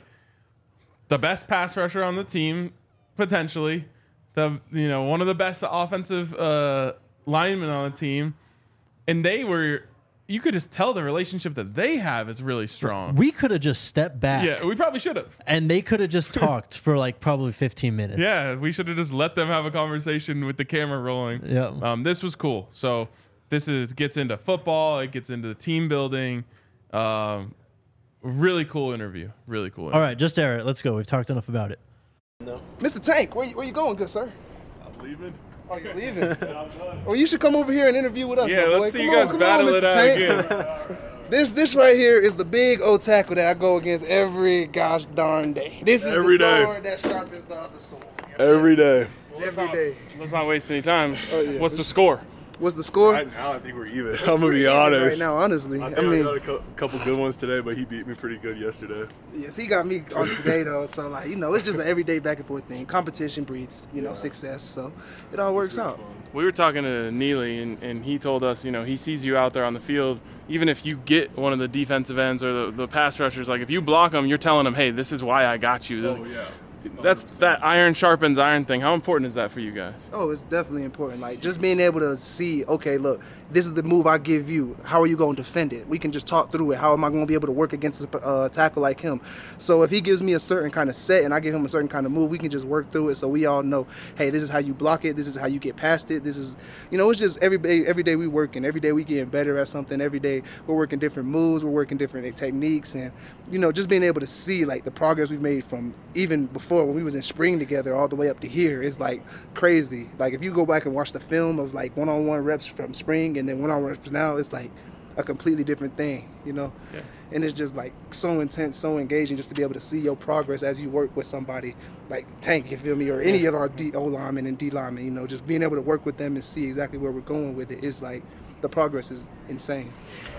the best pass rusher on the team, potentially, the you know one of the best offensive uh, linemen on the team, and they were. You could just tell the relationship that they have is really strong. We could have just stepped back. Yeah, we probably should have. And they could have just talked for like probably fifteen minutes. Yeah, we should have just let them have a conversation with the camera rolling. Yeah. Um, this was cool. So this is gets into football. It gets into the team building. Um, really cool interview. Really cool interview. All right, just air it. Let's go. We've talked enough about it. No. Mister Tank, where you, where you going, good sir? I'm leaving. Oh, you're leaving? Well, you should come over here and interview with us, yeah, my boy. let's see come you guys on, battle on, it out again. This this right here is the big old tackle that I go against every gosh darn day. This is every the day. sword that sharpens the other sword. Every day. Well, every day. Let's not waste any time. Oh, yeah. What's the score? What's the score? Right now, I think we're even. I'm gonna be honest. Right now, honestly, I, I, think I mean, got a co- couple good ones today, but he beat me pretty good yesterday. yes, he got me on today though. So like, you know, it's just an everyday back and forth thing. Competition breeds, you know, Yeah. success. So it all works out. Fun. We were talking to Neely, and, and he told us, you know, he sees you out there on the field. Even if you get one of the defensive ends or the, the pass rushers, like if you block them, you're telling them, hey, this is why I got you. Oh yeah. That's that iron sharpens iron thing. How important is that for you guys? Oh, it's definitely important. Like just being able to see, okay, look, this is the move I give you. How are you going to defend it? We can just talk through it. How am I going to be able to work against a uh, tackle like him? So if he gives me a certain kind of set and I give him a certain kind of move, we can just work through it. So we all know, hey, this is how you block it. This is how you get past it. This is, you know, it's just every day. Every day we working. Every day we getting better at something. Every day we're working different moves. We're working different techniques, and you know, just being able to see like the progress we've made from even before when we was in spring together all the way up to here is like crazy. Like if you go back and watch the film of like one-on-one reps from spring and then one-on-one reps now, it's like a completely different thing, you know? Yeah. And it's just like so intense, so engaging just to be able to see your progress as you work with somebody like Tank, you feel me, or any of our D O linemen and D linemen, you know, just being able to work with them and see exactly where we're going with it is like the progress is insane.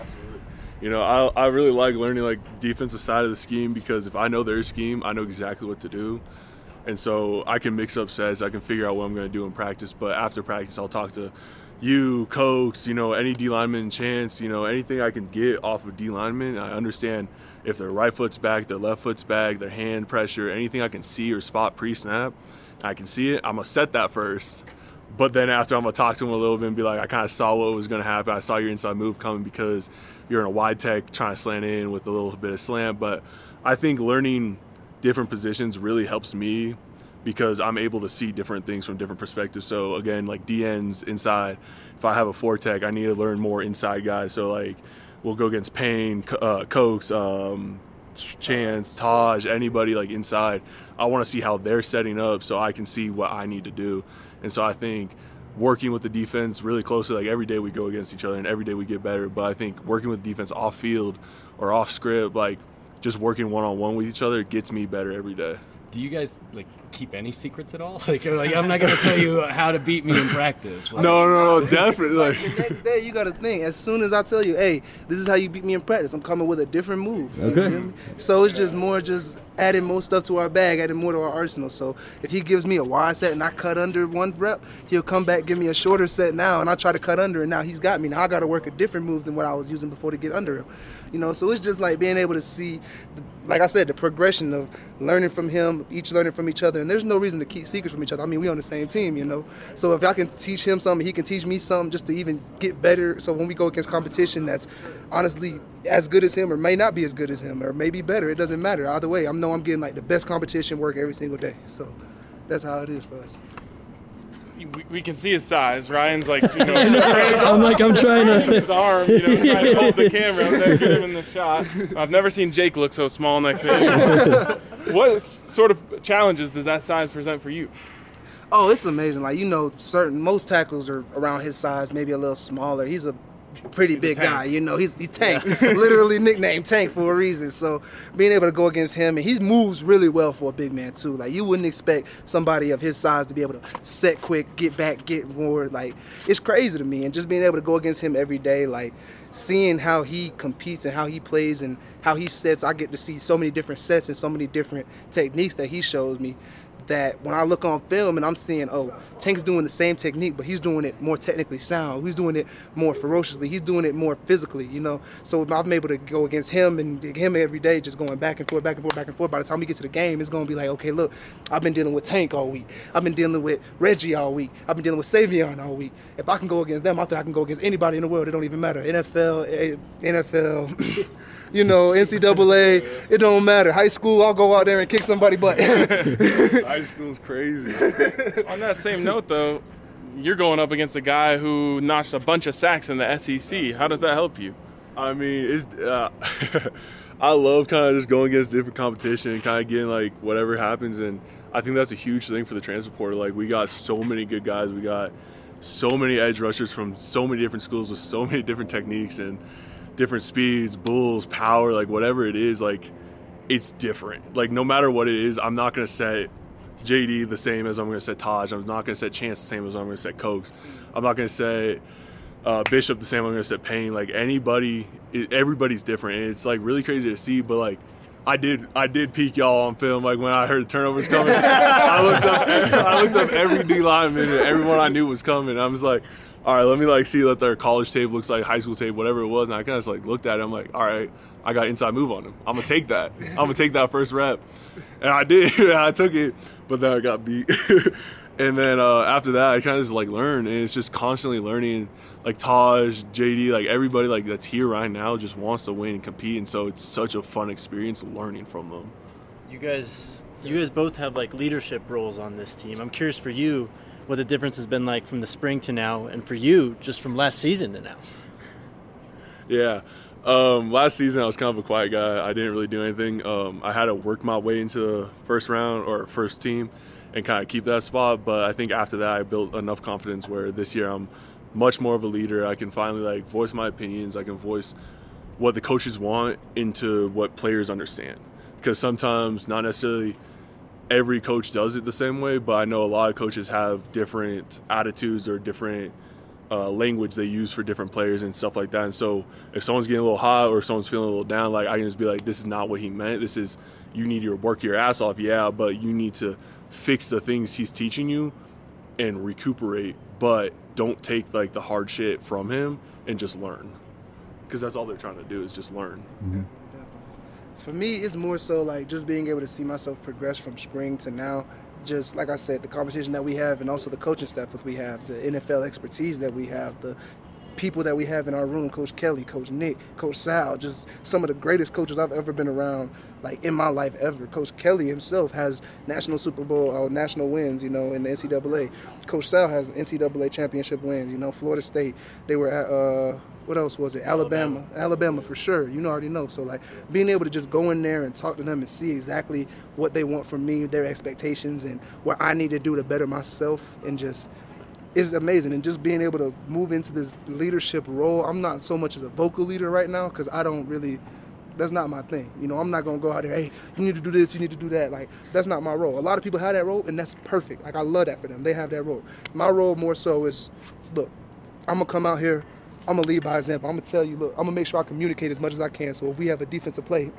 You know, I I really like learning like defensive side of the scheme because if I know their scheme, I know exactly what to do. And so I can mix up sets, I can figure out what I'm going to do in practice, but after practice I'll talk to you, Cokes, you know, any D lineman chance, you know, anything I can get off of D lineman. I understand if their right foot's back, their left foot's back, their hand pressure, anything I can see or spot pre-snap, I can see it. I'm going to set that first. But then after, I'm going to talk to him a little bit and be like, I kind of saw what was going to happen. I saw your inside move coming because you're in a wide tech trying to slant in with a little bit of slant. But I think learning different positions really helps me because I'm able to see different things from different perspectives. So again, like D Ns inside, if I have a four tech, I need to learn more inside guys. So like we'll go against Payne, uh, Cokes, um, Chance, Taj, anybody like inside. I want to see how they're setting up so I can see what I need to do. And so I think working with the defense really closely, like every day we go against each other and every day we get better. But I think working with defense off field or off script, like just working one-on-one with each other gets me better every day. Do you guys like keep any secrets at all? Like, like I'm not gonna tell you how to beat me in practice. Like, no, no, no, definitely. Like the next day, you gotta think. As soon as I tell you, hey, this is how you beat me in practice, I'm coming with a different move. You Okay. feel me? So it's just more, just adding more stuff to our bag, adding more to our arsenal. So if he gives me a wide set and I cut under one rep, he'll come back give me a shorter set now, and I try to cut under, and now he's got me. Now I gotta work a different move than what I was using before to get under him. You know, so it's just like being able to see, the, like I said, the progression of learning from him, each learning from each other. And there's no reason to keep secrets from each other. I mean, we on the same team, you know. So if I can teach him something, he can teach me something just to even get better. So when we go against competition that's honestly as good as him or may not be as good as him or maybe better, it doesn't matter. Either way, I know I'm getting like the best competition work every single day. So that's how it is for us. We, we can see his size. Ryan's like, you know, I'm like, I'm trying to. his arm, you know, trying to hold the camera up there, get him in the shot. I've never seen Jake look so small next to him. What sort of challenges does that size present for you? Oh, it's amazing. Like, you know, certain most tackles are around his size, maybe a little smaller. He's a pretty He's a big tank. guy, you know. He's he's Tank, literally nicknamed Tank for a reason. So being able to go against him, and he moves really well for a big man too. Like, you wouldn't expect somebody of his size to be able to set quick, get back, get forward. Like, it's crazy to me. And just being able to go against him every day, like seeing how he competes and how he plays and how he sets, I get to see so many different sets and so many different techniques that he shows me, that when I look on film and I'm seeing, oh, Tank's doing the same technique, but he's doing it more technically sound. He's doing it more ferociously. He's doing it more physically, you know. So if I'm able to go against him and him every day, just going back and forth, back and forth, back and forth. By the time we get to the game, it's going to be like, okay, look, I've been dealing with Tank all week. I've been dealing with Reggie all week. I've been dealing with Savion all week. If I can go against them, I think I can go against anybody in the world. It don't even matter. N F L, N F L, you know, N C double A, it don't matter. High school, I'll go out there and kick somebody butt. high school's crazy. On that same note, though, you're going up against a guy who notched a bunch of sacks in the S E C. How does that help you? I mean, it's uh, I love kind of just going against different competition and kind of getting like whatever happens, and I think that's a huge thing for the transfer portal. Like, we got so many good guys, we got so many edge rushers from so many different schools with so many different techniques and different speeds, bulls, power, like whatever it is, like it's different. Like, no matter what it is, I'm not gonna set J D the same as I'm gonna set Taj. I'm not gonna set Chance the same as I'm gonna set Cokes. I'm not gonna set uh, Bishop the same I'm gonna set Payne. Like, anybody, it, everybody's different, and it's like really crazy to see. But like, I did, I did peek y'all on film. Like, when I heard the turnovers coming, I looked up, I looked up every D lineman and everyone I knew was coming. I was like, all right, let me like see what their college tape looks like, high school tape, whatever it was. And I kind of just like looked at it. I'm like, all right, I got inside move on him. I'm gonna take that. I'm gonna take that first rep, and I did. I took it, but then I got beat. And then uh, after that, I kind of just like learned, and it's just constantly learning. Like Taj, J D, like everybody like that's here right now just wants to win and compete, and so it's such a fun experience learning from them. You guys, you guys both have like leadership roles on this team. I'm curious for you what the difference has been like from the spring to now, and for you just from last season to now. Yeah. Um, last season, I was kind of a quiet guy. I didn't really do anything. Um, I had to work my way into the first round or first team and kind of keep that spot. But I think after that, I built enough confidence where this year I'm much more of a leader. I can finally like voice my opinions. I can voice what the coaches want into what players understand. Because sometimes not necessarily every coach does it the same way, but I know a lot of coaches have different attitudes or different uh, language they use for different players and stuff like that. And so if someone's getting a little hot or someone's feeling a little down, like I can just be like, this is not what he meant. This is, you need to work your ass off, yeah, but you need to fix the things he's teaching you and recuperate, but don't take like the hard shit from him and just learn, because that's all they're trying to do is just learn. Mm-hmm. For me, it's more so like just being able to see myself progress from spring to now. Just like I said, the conversation that we have, and also the coaching staff that we have, the N F L expertise that we have, the people that we have in our room, Coach Kelly, Coach Nick, Coach Sal, just some of the greatest coaches I've ever been around, like in my life ever. Coach Kelly himself has national Super Bowl, or national wins, you know, in the N C double A. Coach Sal has N C double A championship wins, you know, Florida State. They were at, uh, what else was it? Alabama. Alabama, Alabama for sure. You know, already know. So, like, being able to just go in there and talk to them and see exactly what they want from me, their expectations, and what I need to do to better myself, and just is amazing. And just being able to move into this leadership role. I'm not so much as a vocal leader right now because I don't really, that's not my thing. You know, I'm not going to go out there, hey, you need to do this, you need to do that. Like, that's not my role. A lot of people have that role, and that's perfect. Like, I love that for them. They have that role. My role more so is, look, I'm going to come out here, I'm going to lead by example. I'm going to tell you, look, I'm going to make sure I communicate as much as I can. So if we have a defensive play,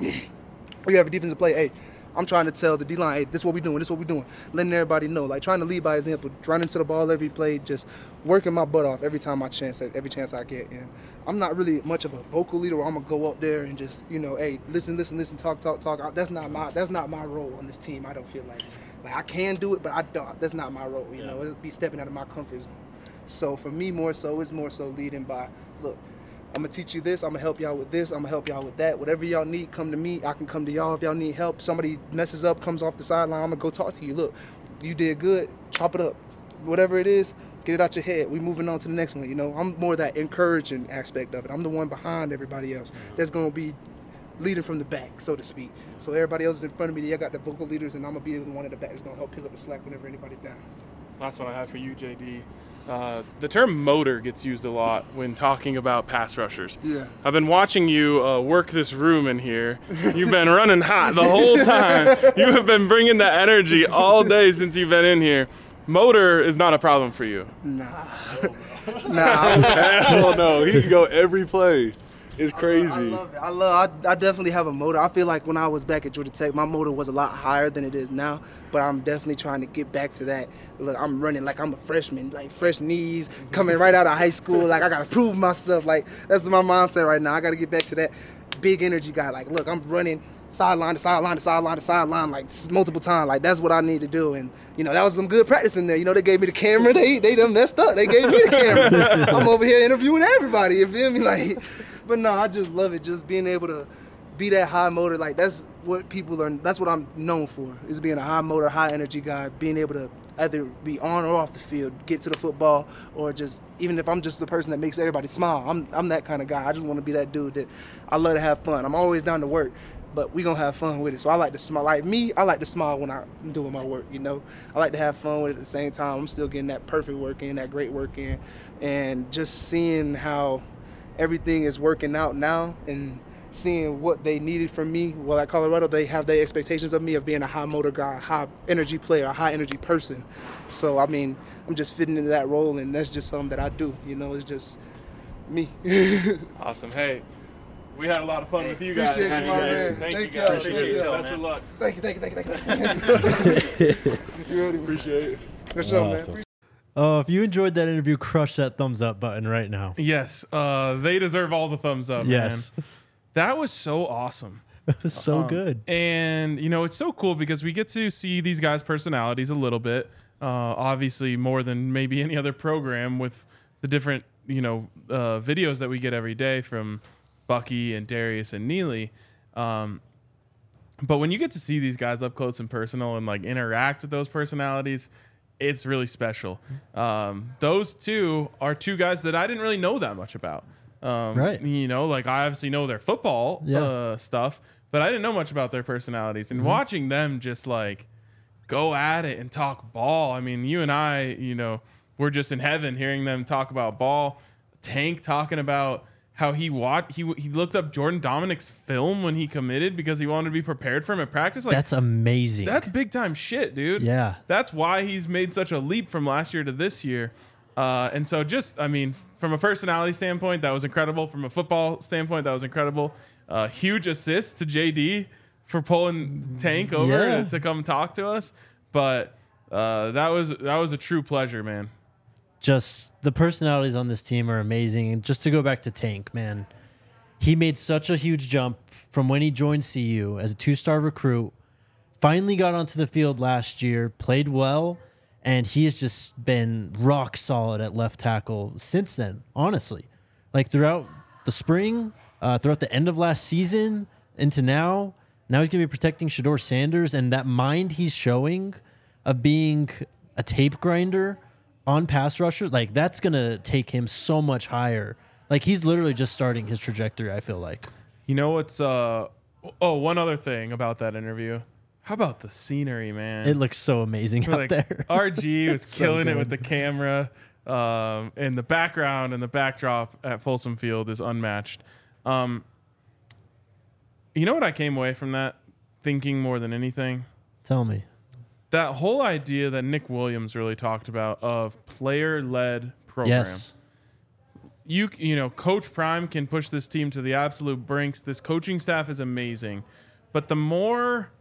we have a defensive play, hey, I'm trying to tell the D-line, hey, this is what we're doing, this is what we're doing. Letting everybody know, like trying to lead by example, running to the ball every play, just working my butt off every time I chance, every chance I get. And I'm not really much of a vocal leader where I'm going to go up there and just, you know, hey, listen, listen, listen, talk, talk, talk. That's not my that's not my role on this team, I don't feel like. Like, I can do it, but I don't. That's not my role, you yeah. know. It'd be stepping out of my comfort zone. So for me, more so, it's more so leading by, look, I'm going to teach you this. I'm going to help y'all with this. I'm going to help y'all with that. Whatever y'all need, come to me. I can come to y'all if y'all need help. Somebody messes up, comes off the sideline, I'm going to go talk to you. Look, you did good. Chop it up. Whatever it is, get it out your head. We moving on to the next one, you know. I'm more that encouraging aspect of it. I'm the one behind everybody else that's going to be leading from the back, so to speak. So everybody else is in front of me. I got the vocal leaders, and I'm going to be the one in the back that's going to help pick up the slack whenever anybody's down. Last one I have for you, J D. Uh, the term motor gets used a lot when talking about pass rushers. Yeah. I've been watching you uh, work this room in here. You've been running hot the whole time. You have been bringing the energy all day since you've been in here. Motor is not a problem for you. Nah. nah. Hell no. He can go every play. It's crazy. I love it. I love. I, I definitely have a motor. I feel like when I was back at Georgia Tech, my motor was a lot higher than it is now. But I'm definitely trying to get back to that. Look, I'm running like I'm a freshman, like fresh knees, coming right out of high school. Like, I gotta prove myself. Like, that's my mindset right now. I gotta get back to that big energy guy. Like, look, I'm running sideline to sideline to sideline to sideline like multiple times. Like, that's what I need to do. And you know, that was some good practice in there. You know, they gave me the camera. They they done messed up. They gave me the camera. I'm over here interviewing everybody. You feel me? Like. But no, I just love it. Just being able to be that high motor. Like, that's what people are, that's what I'm known for, is being a high motor, high energy guy, being able to either be on or off the field, get to the football, or just, even if I'm just the person that makes everybody smile, I'm I'm that kind of guy. I just want to be that dude that I love to have fun. I'm always down to work, but we going to have fun with it. So I like to smile. Like me, I like to smile when I'm doing my work, you know. I like to have fun with it at the same time. I'm still getting that perfect work in, that great work in, and just seeing how everything is working out now and seeing what they needed from me. Well, at Colorado, they have their expectations of me of being a high motor guy, a high energy player, a high energy person. So, I mean, I'm just fitting into that role, and that's just something that I do. You know, it's just me. Awesome. Hey, we had a lot of fun hey, with you guys. Appreciate you, my man. Thank, thank you you guys. Appreciate it. it. Best of luck. Thank you, thank you, thank you, thank you. you Appreciate it. For sure, awesome. man. Oh, if you enjoyed that interview, crush that thumbs up button right now. Yes, uh, they deserve all the thumbs up. Yes, man. That was so awesome. It was so um, good. And you know, it's so cool because we get to see these guys' personalities a little bit. Uh, obviously, more than maybe any other program with the different you know uh, videos that we get every day from Bucky and Darius and Neely. Um, but when you get to see these guys up close and personal and like interact with those personalities, it's really special. Um, those two are two guys that I didn't really know that much about. Um, right. You know, like I obviously know their football yeah. uh, stuff, but I didn't know much about their personalities. And mm-hmm. watching them just like go at it and talk ball. I mean, you and I, you know, we're just in heaven hearing them talk about ball. Tank talking about how he watched, he he looked up Jordan Dominic's film when he committed because he wanted to be prepared for him at practice. Like, that's amazing. That's big time shit, dude. Yeah. That's why he's made such a leap from last year to this year. Uh, and so just, I mean, from a personality standpoint, that was incredible. From a football standpoint, that was incredible. Uh, huge assist to J D for pulling Tank over yeah. to, to come talk to us. But uh, that was that was a true pleasure, man. Just the personalities on this team are amazing. And just to go back to Tank, man, he made such a huge jump from when he joined C U as a two-star recruit, finally got onto the field last year, played well, and he has just been rock solid at left tackle since then, honestly. Like throughout the spring, uh, throughout the end of last season, into now, now he's going to be protecting Shedeur Sanders, and that mind he's showing of being a tape grinder on pass rushers, like that's going to take him so much higher. Like he's literally just starting his trajectory, I feel like. You know what's uh oh, one other thing about that interview. How about the scenery, man? It looks so amazing out like, there. R G was so killing it good. with the camera. Um, and the background and the backdrop at Folsom Field is unmatched. Um, you know what I came away from that thinking more than anything? Tell me. That whole idea that Nick Williams really talked about of player-led program. Yes. You you know, Coach Prime can push this team to the absolute brinks. This coaching staff is amazing. But the more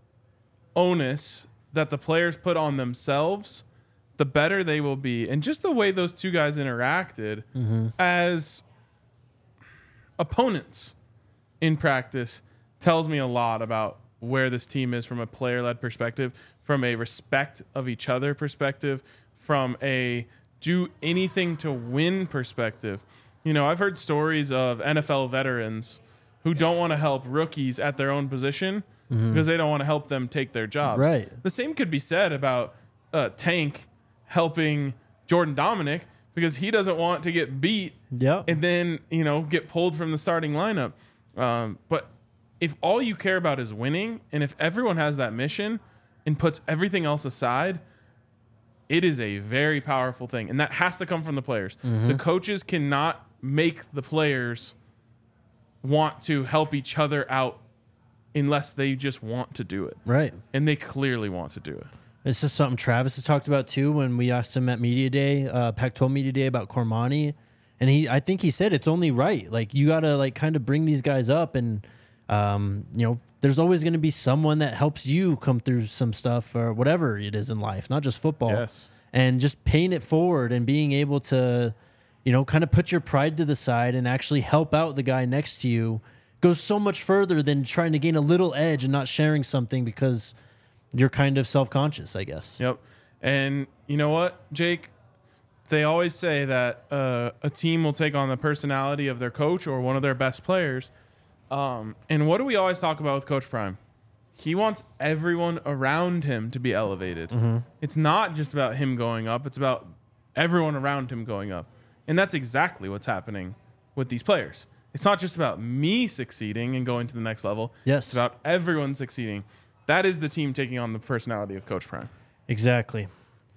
onus that the players put on themselves, the better they will be. And just the way those two guys interacted Mm-hmm. as opponents in practice tells me a lot about where this team is from a player-led perspective, from a respect of each other perspective, from a do anything to win perspective. You know, I've heard stories of N F L veterans who don't want to help rookies at their own position Mm-hmm. because they don't want to help them take their jobs. Right. The same could be said about uh, Tank helping Jordan Dominic because he doesn't want to get beat Yep. and then, you know, get pulled from the starting lineup. Um, but if all you care about is winning, and if everyone has that mission and puts everything else aside, it is a very powerful thing. And that has to come from the players. Mm-hmm. The coaches cannot make the players want to help each other out unless they just want to do it. Right. And they clearly want to do it. This is something Travis has talked about too when we asked him at Media Day, uh, Pac twelve Media Day about Cormani. And he, I think he said it's only right. Like you got to like kind of bring these guys up and, um, you know, there's always going to be someone that helps you come through some stuff or whatever it is in life, not just football. Yes. And just paying it forward and being able to, you know, kind of put your pride to the side and actually help out the guy next to you goes so much further than trying to gain a little edge and not sharing something because you're kind of self-conscious, I guess. Yep. And you know what, Jake? They always say that uh, a team will take on the personality of their coach or one of their best players. Um, and what do we always talk about with Coach Prime? He wants everyone around him to be elevated. Mm-hmm. It's not just about him going up. It's about everyone around him going up. And that's exactly what's happening with these players. It's not just about me succeeding and going to the next level. Yes. It's about everyone succeeding. That is the team taking on the personality of Coach Prime. Exactly.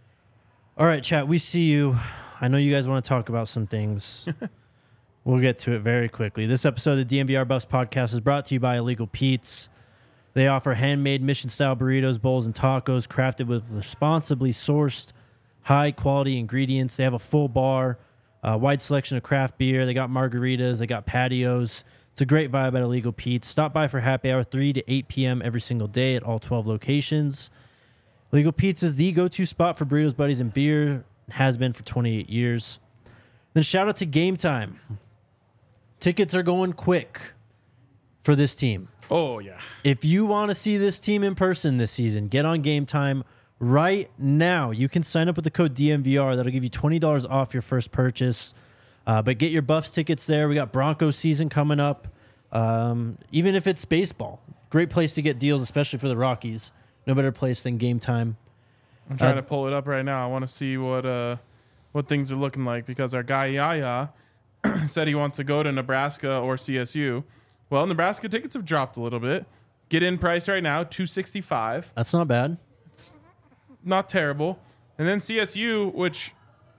All right, chat, we see you. I know you guys want to talk about some things. We'll get to it very quickly. This episode of the D M V R Buffs podcast is brought to you by Illegal Pete's. They offer handmade mission-style burritos, bowls, and tacos crafted with responsibly sourced, high-quality ingredients. They have a full bar, a wide selection of craft beer. They got margaritas. They got patios. It's a great vibe at Illegal Pete's. Stop by for happy hour three to eight p.m. every single day at all twelve locations. Illegal Pete's is the go-to spot for burritos, buddies, and beer. Has been for twenty-eight years. Then shout out to Game Time. Tickets are going quick for this team. Oh, yeah. If you want to see this team in person this season, get on Game Time right now. You can sign up with the code D M V R. That'll give you twenty dollars off your first purchase. Uh, but get your Buffs tickets there. We got Broncos season coming up. Um, even if it's baseball, great place to get deals, especially for the Rockies. No better place than Game Time. I'm trying Uh, to pull it up right now. I want to see what uh, what things are looking like because our guy Yaya said he wants to go to Nebraska or C S U. Well, Nebraska tickets have dropped a little bit. Get in price right now, two sixty-five. That's not bad. Not terrible. And then C S U, which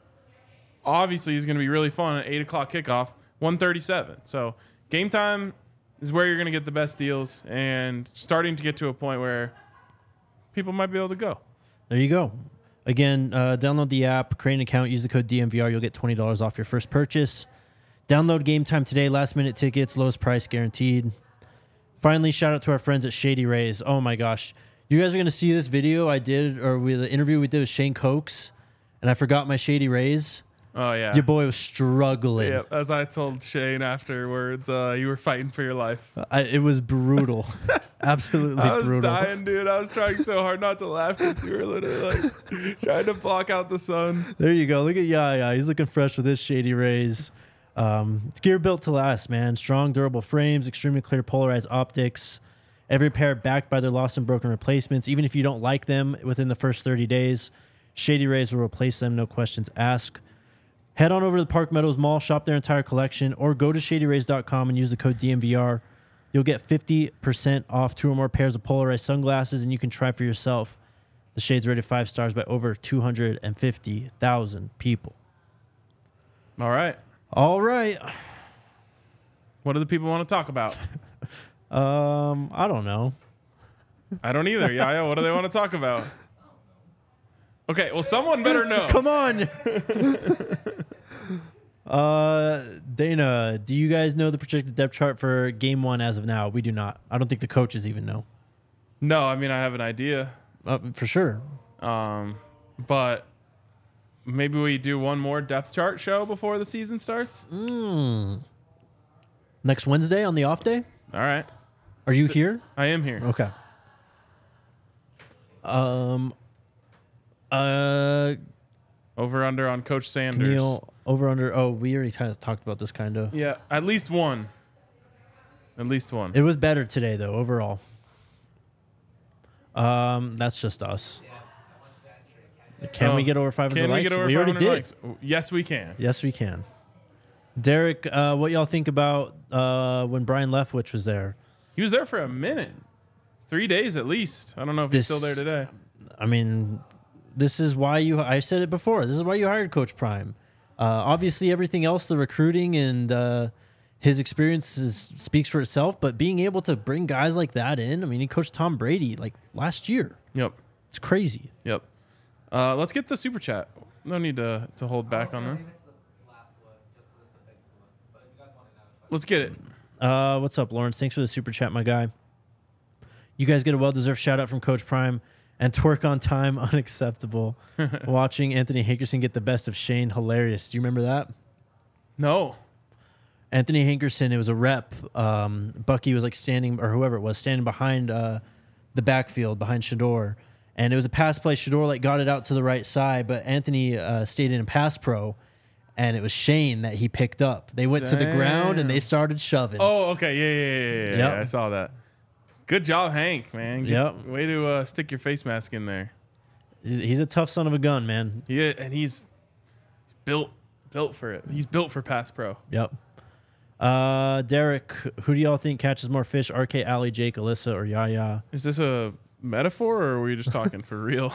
obviously is going to be really fun at eight o'clock kickoff, one thirty-seven. So Game Time is where you're going to get the best deals and starting to get to a point where people might be able to go. There you go. Again, uh, download the app, create an account, use the code D M V R. You'll get twenty dollars off your first purchase. Download Game Time today. Last minute tickets, lowest price guaranteed. Finally, shout out to our friends at Shady Rays. Oh my gosh. You guys are gonna see this video I did, or we, the interview we did with Shane Cokes, and I forgot my Shady Rays. Oh yeah. Your boy was struggling. Yeah, as I told Shane afterwards, uh, you were fighting for your life. I, it was brutal, absolutely I was brutal. dying, dude. I was trying so hard not to laugh because you were literally like trying to block out the sun. There you go. Look at Yaya. He's looking fresh with his Shady Rays. Um, it's gear built to last, man. Strong, durable frames, extremely clear polarized optics. Every pair backed by their lost and broken replacements. Even if you don't like them within the first thirty days, Shady Rays will replace them, no questions asked. Head on over to the Park Meadows Mall, shop their entire collection, or go to shady rays dot com and use the code D M V R. You'll get fifty percent off two or more pairs of polarized sunglasses, and you can try for yourself. The Shade's rated five stars by over two hundred fifty thousand people. All right. All right. What do the people want to talk about? Um, I don't know. I don't either. Yeah, yeah. What do they want to talk about? Okay, well, someone better know. Come on. uh, Dana, do you guys know the projected depth chart for game one as of now? We do not. I don't think the coaches even know. No, I mean, I have an idea. Uh, for sure. Um, but maybe we do one more depth chart show before the season starts. Mm. Next Wednesday on the off day? All right. Are you here? I am here. Okay. Um. Uh. Over under on Coach Sanders. Neil, over under. Oh, we already kind of talked about this, kind of. Yeah, at least one. At least one. It was better today, though, overall. Um, that's just us. Can Oh, we get over five hundred Can we likes? get over we already 500 did. likes? Yes, we can. Yes, we can. Derek, uh, what y'all think about uh, when Brian Leftwich was there? He was there for a minute. Three days at least. I don't know if he's This- still there today. I mean, this is why you. I said it before. This is why you hired Coach Prime. Uh, obviously, everything else, the recruiting and uh, his experience is, speaks for itself. But being able to bring guys like that in, I mean, he coached Tom Brady like last year. Yep. It's crazy. Yep. Uh, let's get the super chat. No need to, to hold back on that. Let's get it. Uh, what's up, Lawrence? Thanks for the super chat, my guy. You guys get a well-deserved shout-out from Coach Prime. And twerk on time, unacceptable. Watching Anthony Hankerson get the best of Shane, hilarious. Do you remember that? No. Anthony Hankerson, it was a rep. Um, Bucky was like standing, or whoever it was, standing behind uh, the backfield, behind Shador. And it was a pass play. Shador like got it out to the right side, but Anthony uh, stayed in pass pro. And it was Shane that he picked up. They went to the ground and they started shoving. Oh, okay. Yeah, yeah, yeah, yeah. yeah. Yep. I saw that. Good job, Hank, man. Good, Yep. Way to uh, stick your face mask in there. He's, he's a tough son of a gun, man. Yeah, and he's built built for it. He's built for pass pro. Yep. Uh, Derek, who do y'all think catches more fish? R K, Allie, Jake, Alyssa, or Yaya? Is this a metaphor, or were you just talking for real?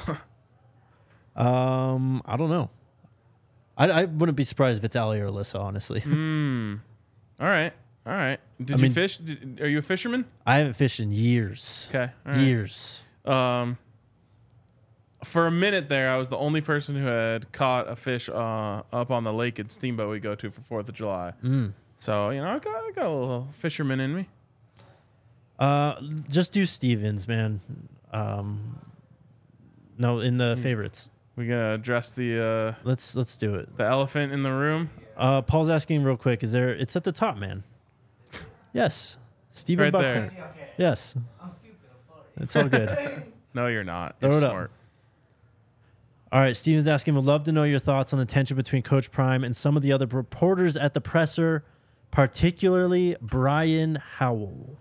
Um, I don't know. I, I wouldn't be surprised if it's Allie or Alyssa, honestly. Hmm. All right. All right. Did I you mean- fish? Did, are you a fisherman? I haven't fished in years. Okay. all right. Years. Um, for a minute there, I was the only person who had caught a fish uh, up on the lake at Steamboat we go to for Fourth of July. Mm. So you know, I got, I got a little fisherman in me. Uh, just do Stevens, man. Um, no, in the favorites. We gonna address the uh, Let's let's do it. the elephant in the room. Uh, Paul's asking real quick. Is there? It's at the top, man. Yes, Steven Right Buckner. there. Yes. I'm stupid. I'm sorry. It's all good. No, you're not. Throw You're it up. smart. All right, Steven's asking, would love to know your thoughts on the tension between Coach Prime and some of the other reporters at the presser, particularly Brian Howell.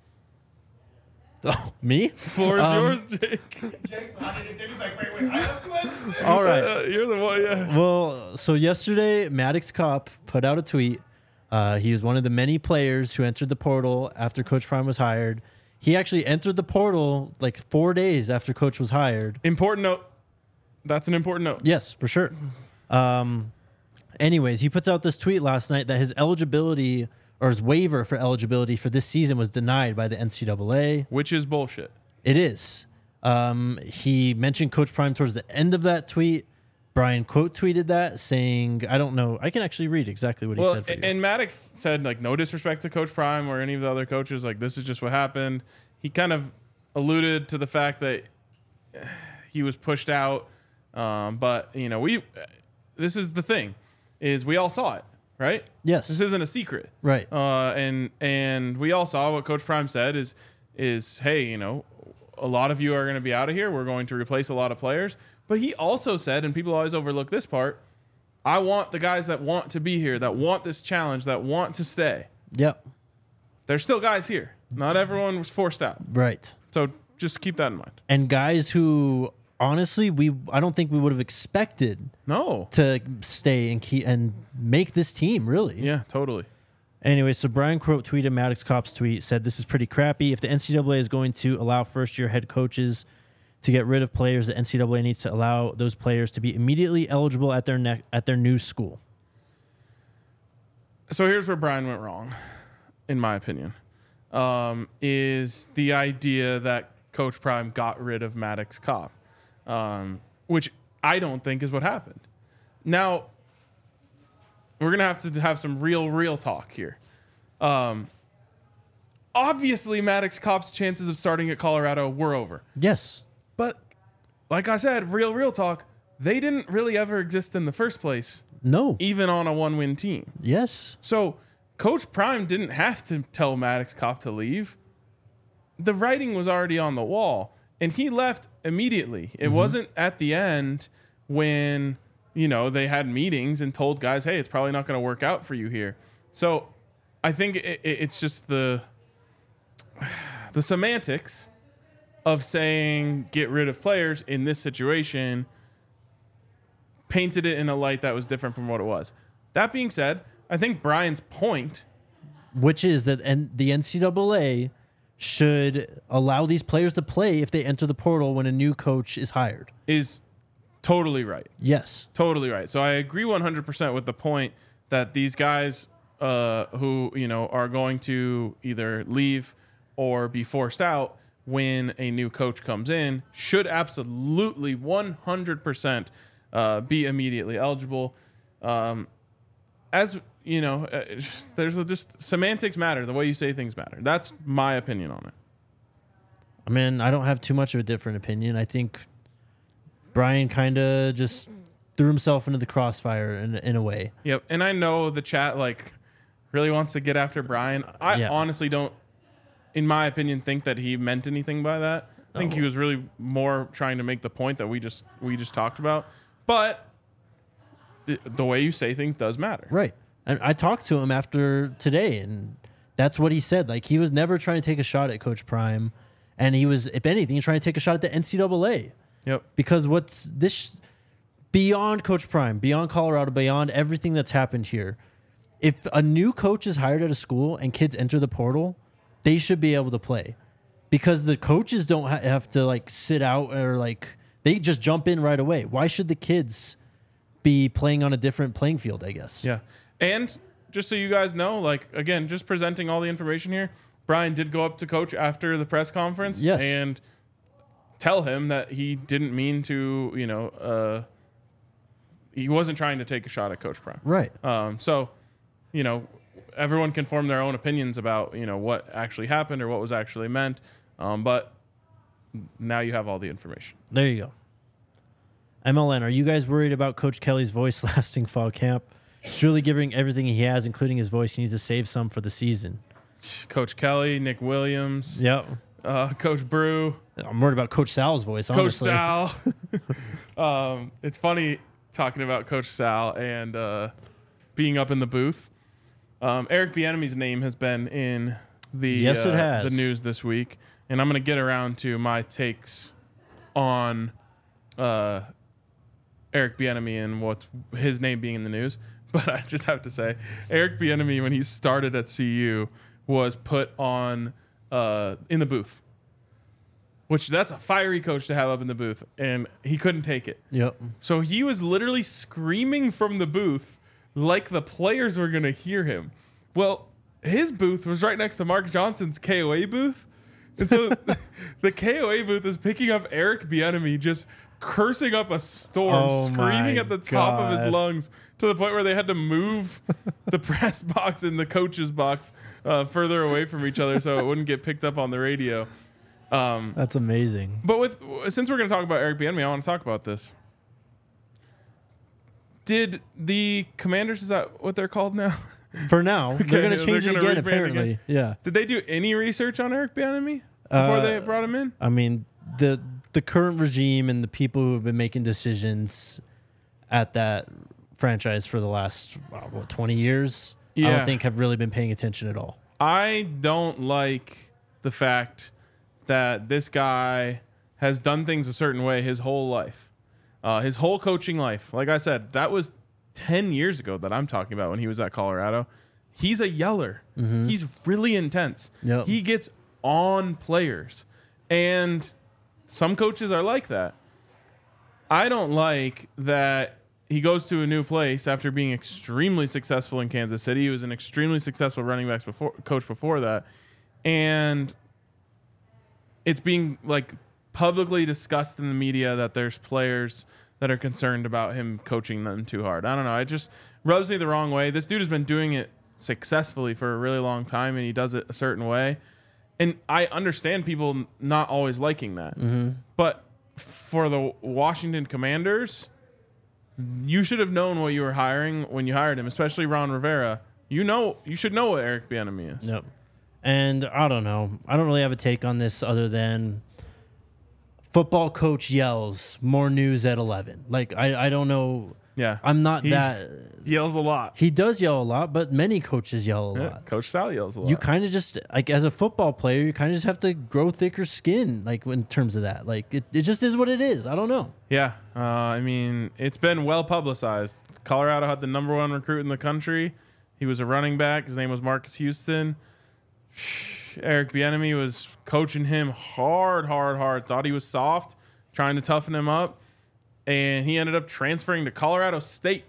Oh, me? Floor is Um, yours, Jake. All right. Uh, you're the one. Yeah. Well, so yesterday, Maddox Kopp put out a tweet. Uh, he was one of the many players who entered the portal after Coach Prime was hired. He actually entered the portal like four days after Coach was hired. Important note. That's an important note. Yes, for sure. Um, anyways, he puts out this tweet last night that his eligibility or his waiver for eligibility for this season was denied by the N C double A. Which is bullshit. It is. Um, he mentioned Coach Prime towards the end of that tweet. Brian quote tweeted that saying, I don't know. I can actually read exactly what he Well, said for you. and Maddox said, like, no disrespect to Coach Prime or any of the other coaches. Like, this is just what happened. He kind of alluded to the fact that he was pushed out. Um, but you know, we this is the thing, is we all saw it, right? Yes. This isn't a secret, Right. Uh, and and we all saw what Coach Prime said is is hey, you know, a lot of you are going to be out of here. We're going to replace a lot of players. But he also said, and people always overlook this part, I want the guys that want to be here, that want this challenge, that want to stay. Yep. There's still guys here. Not everyone was forced out. Right. So just keep that in mind. And guys who honestly we I don't think we would have expected No. to stay and keep and make this team, really. Yeah, totally. Anyway, so Brian Crow tweeted Maddox Kopp's tweet, said this is pretty crappy. If the N C double A is going to allow first-year head coaches to get rid of players, the N C double A needs to allow those players to be immediately eligible at their ne- at their new school. So here's where Brian went wrong, in my opinion, um, is the idea that Coach Prime got rid of Maddox Kopp, um, which I don't think is what happened. Now, we're going to have to have some real, real talk here. Um, obviously, Maddox Kopp's chances of starting at Colorado were over. Yes. But like I said, real, real talk, they didn't really ever exist in the first place, No. even on a one-win team. Yes. So Coach Prime didn't have to tell Maddox Kopp to leave. The writing was already on the wall, and he left immediately. It Mm-hmm. wasn't at the end when, you know, they had meetings and told guys, hey, it's probably not going to work out for you here. So I think it, it, it's just the the semantics of saying get rid of players in this situation painted it in a light that was different from what it was. That being said, I think Brian's point, Which is that and the N C double A should allow these players to play if they enter the portal when a new coach is hired. is totally right. Yes. Totally right. So I agree one hundred percent with the point that these guys uh, who, you know, are going to either leave or be forced out when a new coach comes in should absolutely one hundred percent uh, be immediately eligible. Um, as you know, uh, it's just, there's a, just semantics matter. The way you say things matter. That's my opinion on it. I mean, I don't have too much of a different opinion. I think Brian kind of just threw himself into the crossfire in, in a way. Yep. And I know the chat like really wants to get after Brian. I Yeah. honestly don't, in my opinion, think that he meant anything by that. I think he was really more trying to make the point that we just we just talked about. But the, the way you say things does matter. Right. And I talked to him after today, and that's what he said. Like, he was never trying to take a shot at Coach Prime, and he was, if anything, trying to take a shot at the N C double A. Yep. Because what's this beyond Coach Prime, beyond Colorado, beyond everything that's happened here, if a new coach is hired at a school and kids enter the portal, they should be able to play. Because the coaches don't ha- have to, like, sit out or, like, they just jump in right away. Why should the kids be playing on a different playing field, I guess? Yeah. And just so you guys know, like, again, just presenting all the information here, Brian did go up to Coach after the press conference Yes. and tell him that he didn't mean to, you know, uh, he wasn't trying to take a shot at Coach Prime. Right. Um, so, you know, everyone can form their own opinions about, you know, what actually happened or what was actually meant. Um, but now you have all the information. There you go. M L N, are you guys worried about Coach Kelly's voice lasting fall camp? He's really giving everything he has, including his voice. He needs to save some for the season. Coach Kelly, Nick Williams, Yep. uh, Coach Brew, I'm worried about Coach Sal's voice, Coach honestly. Sal. um, it's funny talking about Coach Sal and uh, being up in the booth. Um, Eric Bieniemy's name has been in the Yes, it uh, has. the news this week, and I'm going to get around to my takes on uh, Eric Bieniemy and what his name being in the news. But I just have to say, Eric Bieniemy, when he started at C U, was put on uh, in the booth, which that's a fiery coach to have up in the booth, and he couldn't take it. Yep. So he was literally screaming from the booth like the players were going to hear him. Well, his booth was right next to Mark Johnson's K O A booth. And so the K O A booth is picking up Eric Bieniemy just cursing up a storm, Oh screaming my at the top of his God. lungs to the point where they had to move the press box and the coach's box uh, further away from each other so it wouldn't get picked up on the radio. Um, That's amazing. but with since we're going to talk about Eric Bieniemy, I want to talk about this. Did the Commanders, is that what they're called now? For now, they're going to they're change it gonna again, rebrand apparently. again. Yeah. Did they do any research on Eric Bieniemy before Uh, they brought him in? I mean, the the current regime and the people who have been making decisions at that franchise for the last, uh, what, twenty years, I Yeah. don't think have really been paying attention at all. I don't like the fact that this guy has done things a certain way his whole life, uh, his whole coaching life. Like I said, that was ten years ago that I'm talking about when he was at Colorado. He's a yeller. He's really intense. Yep. He gets on players. And some coaches are like that. I don't like that he goes to a new place after being extremely successful in Kansas City. He was an extremely successful running backs before coach before that. And it's being like publicly discussed in the media that there's players that are concerned about him coaching them too hard. I don't know. It just rubs me the wrong way. This dude has been doing it successfully for a really long time, and he does it a certain way. And I understand people not always liking that. Mm-hmm. But for the Washington Commanders, you should have known what you were hiring when you hired him, especially Ron Rivera. You know, you should know what Eric Bieniemy is. Yep. And I don't know. I don't really have a take on this other than football coach yells, more news at eleven. Like, I, I don't know. Yeah. I'm not He's- that. He yells a lot. He does yell a lot, but many coaches yell a Yeah, lot. Coach Sal yells a lot. You kind of just, like, as a football player, you kind of just have to grow thicker skin, like, in terms of that. Like, it, it just is what it is. I don't know. Yeah, uh, I mean, it's been well publicized. Colorado had the number one recruit in the country. He was a running back. His name was Marcus Houston. Eric Bieniemy was coaching him hard, hard, hard. Thought he was soft, trying to toughen him up, and he ended up transferring to Colorado State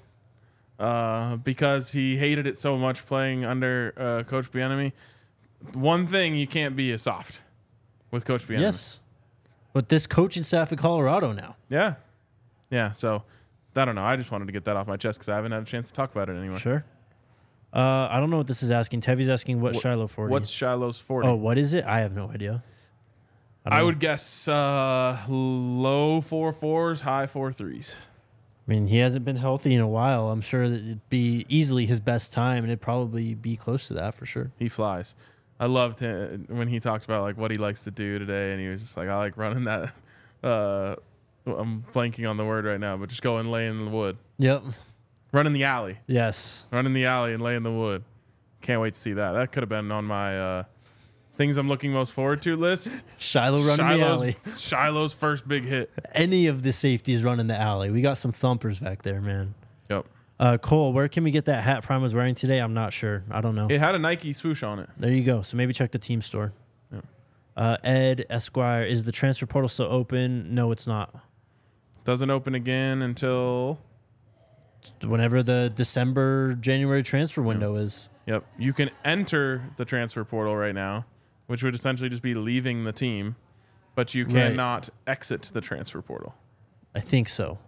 uh, because he hated it so much playing under uh, Coach Bieniemy. One thing you can't be is soft with Coach Bieniemy. Yes. But this coaching staff at Colorado now. Yeah. Yeah. So I don't know. I just wanted to get that off my chest because I haven't had a chance to talk about it anymore. Sure. Uh, I don't know what this is asking. Tevy's asking what, What- Shiloh forty. What's Shiloh's forty? Oh, what is it? I have no idea. I, don't I know. would guess uh, low four fours, high four threes. I mean, he hasn't been healthy in a while. I'm sure that it'd be easily his best time, and it'd probably be close to that for sure. He flies. I loved him when he talked about like what he likes to do today, and he was just like, I like running that. Uh, I'm blanking on the word right now, but just go and lay in the wood, Yep. run in the alley, Yes. run in the alley and lay in the wood. Can't wait to see that. That could have been on my uh, things I'm looking most forward to list. Shiloh running the Shiloh's, alley. Shiloh's first big hit. Any of the safeties running the alley. We got some thumpers back there, man. Yep. Uh, Cole, where can we get that hat Prime was wearing today? I'm not sure. I don't know. It had a Nike swoosh on it. There you go. So maybe check the team store. Yeah. Uh, Ed Esquire, is the transfer portal still open? No, it's not. Doesn't open again until Whenever the December, January transfer window is. Yep. You can enter the transfer portal right now, which would essentially just be leaving the team, but you Right. cannot exit the transfer portal. I think so.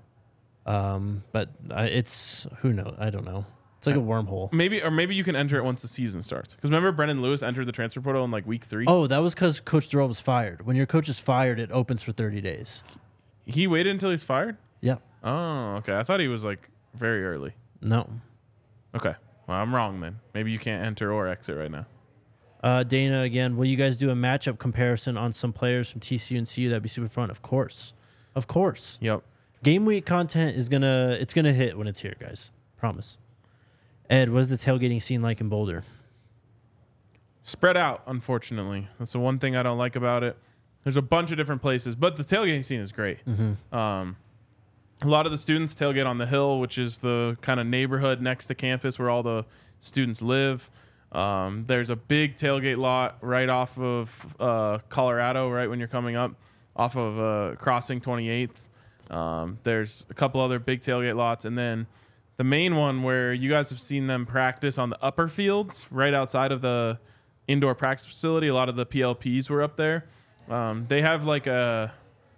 Um, but I, it's, who knows? I don't know. It's like a wormhole. Maybe, or maybe you can enter it once the season starts. Because remember, Brendan Lewis entered the transfer portal in like week three. Oh, that was because Coach Durrell was fired. When your coach is fired, it opens for thirty days. He waited until he's fired? Yeah. Oh, okay. I thought he was like very early. No. Okay. Well, I'm wrong then. Maybe you can't enter or exit right now. Uh, Dana, again, will you guys do a matchup comparison on some players from T C U and C U? That'd be super fun. Of course. Of course. Yep. Game week content is gonna it's gonna hit when it's here, guys. Promise. Ed, what is the tailgating scene like in Boulder? Spread out, unfortunately. That's the one thing I don't like about it. There's a bunch of different places, but the tailgating scene is great. Mm-hmm. Um, a lot of the students tailgate on the hill, which is the kind of neighborhood next to campus where all the students live. Um, there's a big tailgate lot right off of uh, Colorado, right when you're coming up, off of uh, crossing twenty-eighth. Um, there's a couple other big tailgate lots, and then the main one where you guys have seen them practice on the upper fields, right outside of the indoor practice facility. A lot of the P L Ps were up there. Um, they have like a,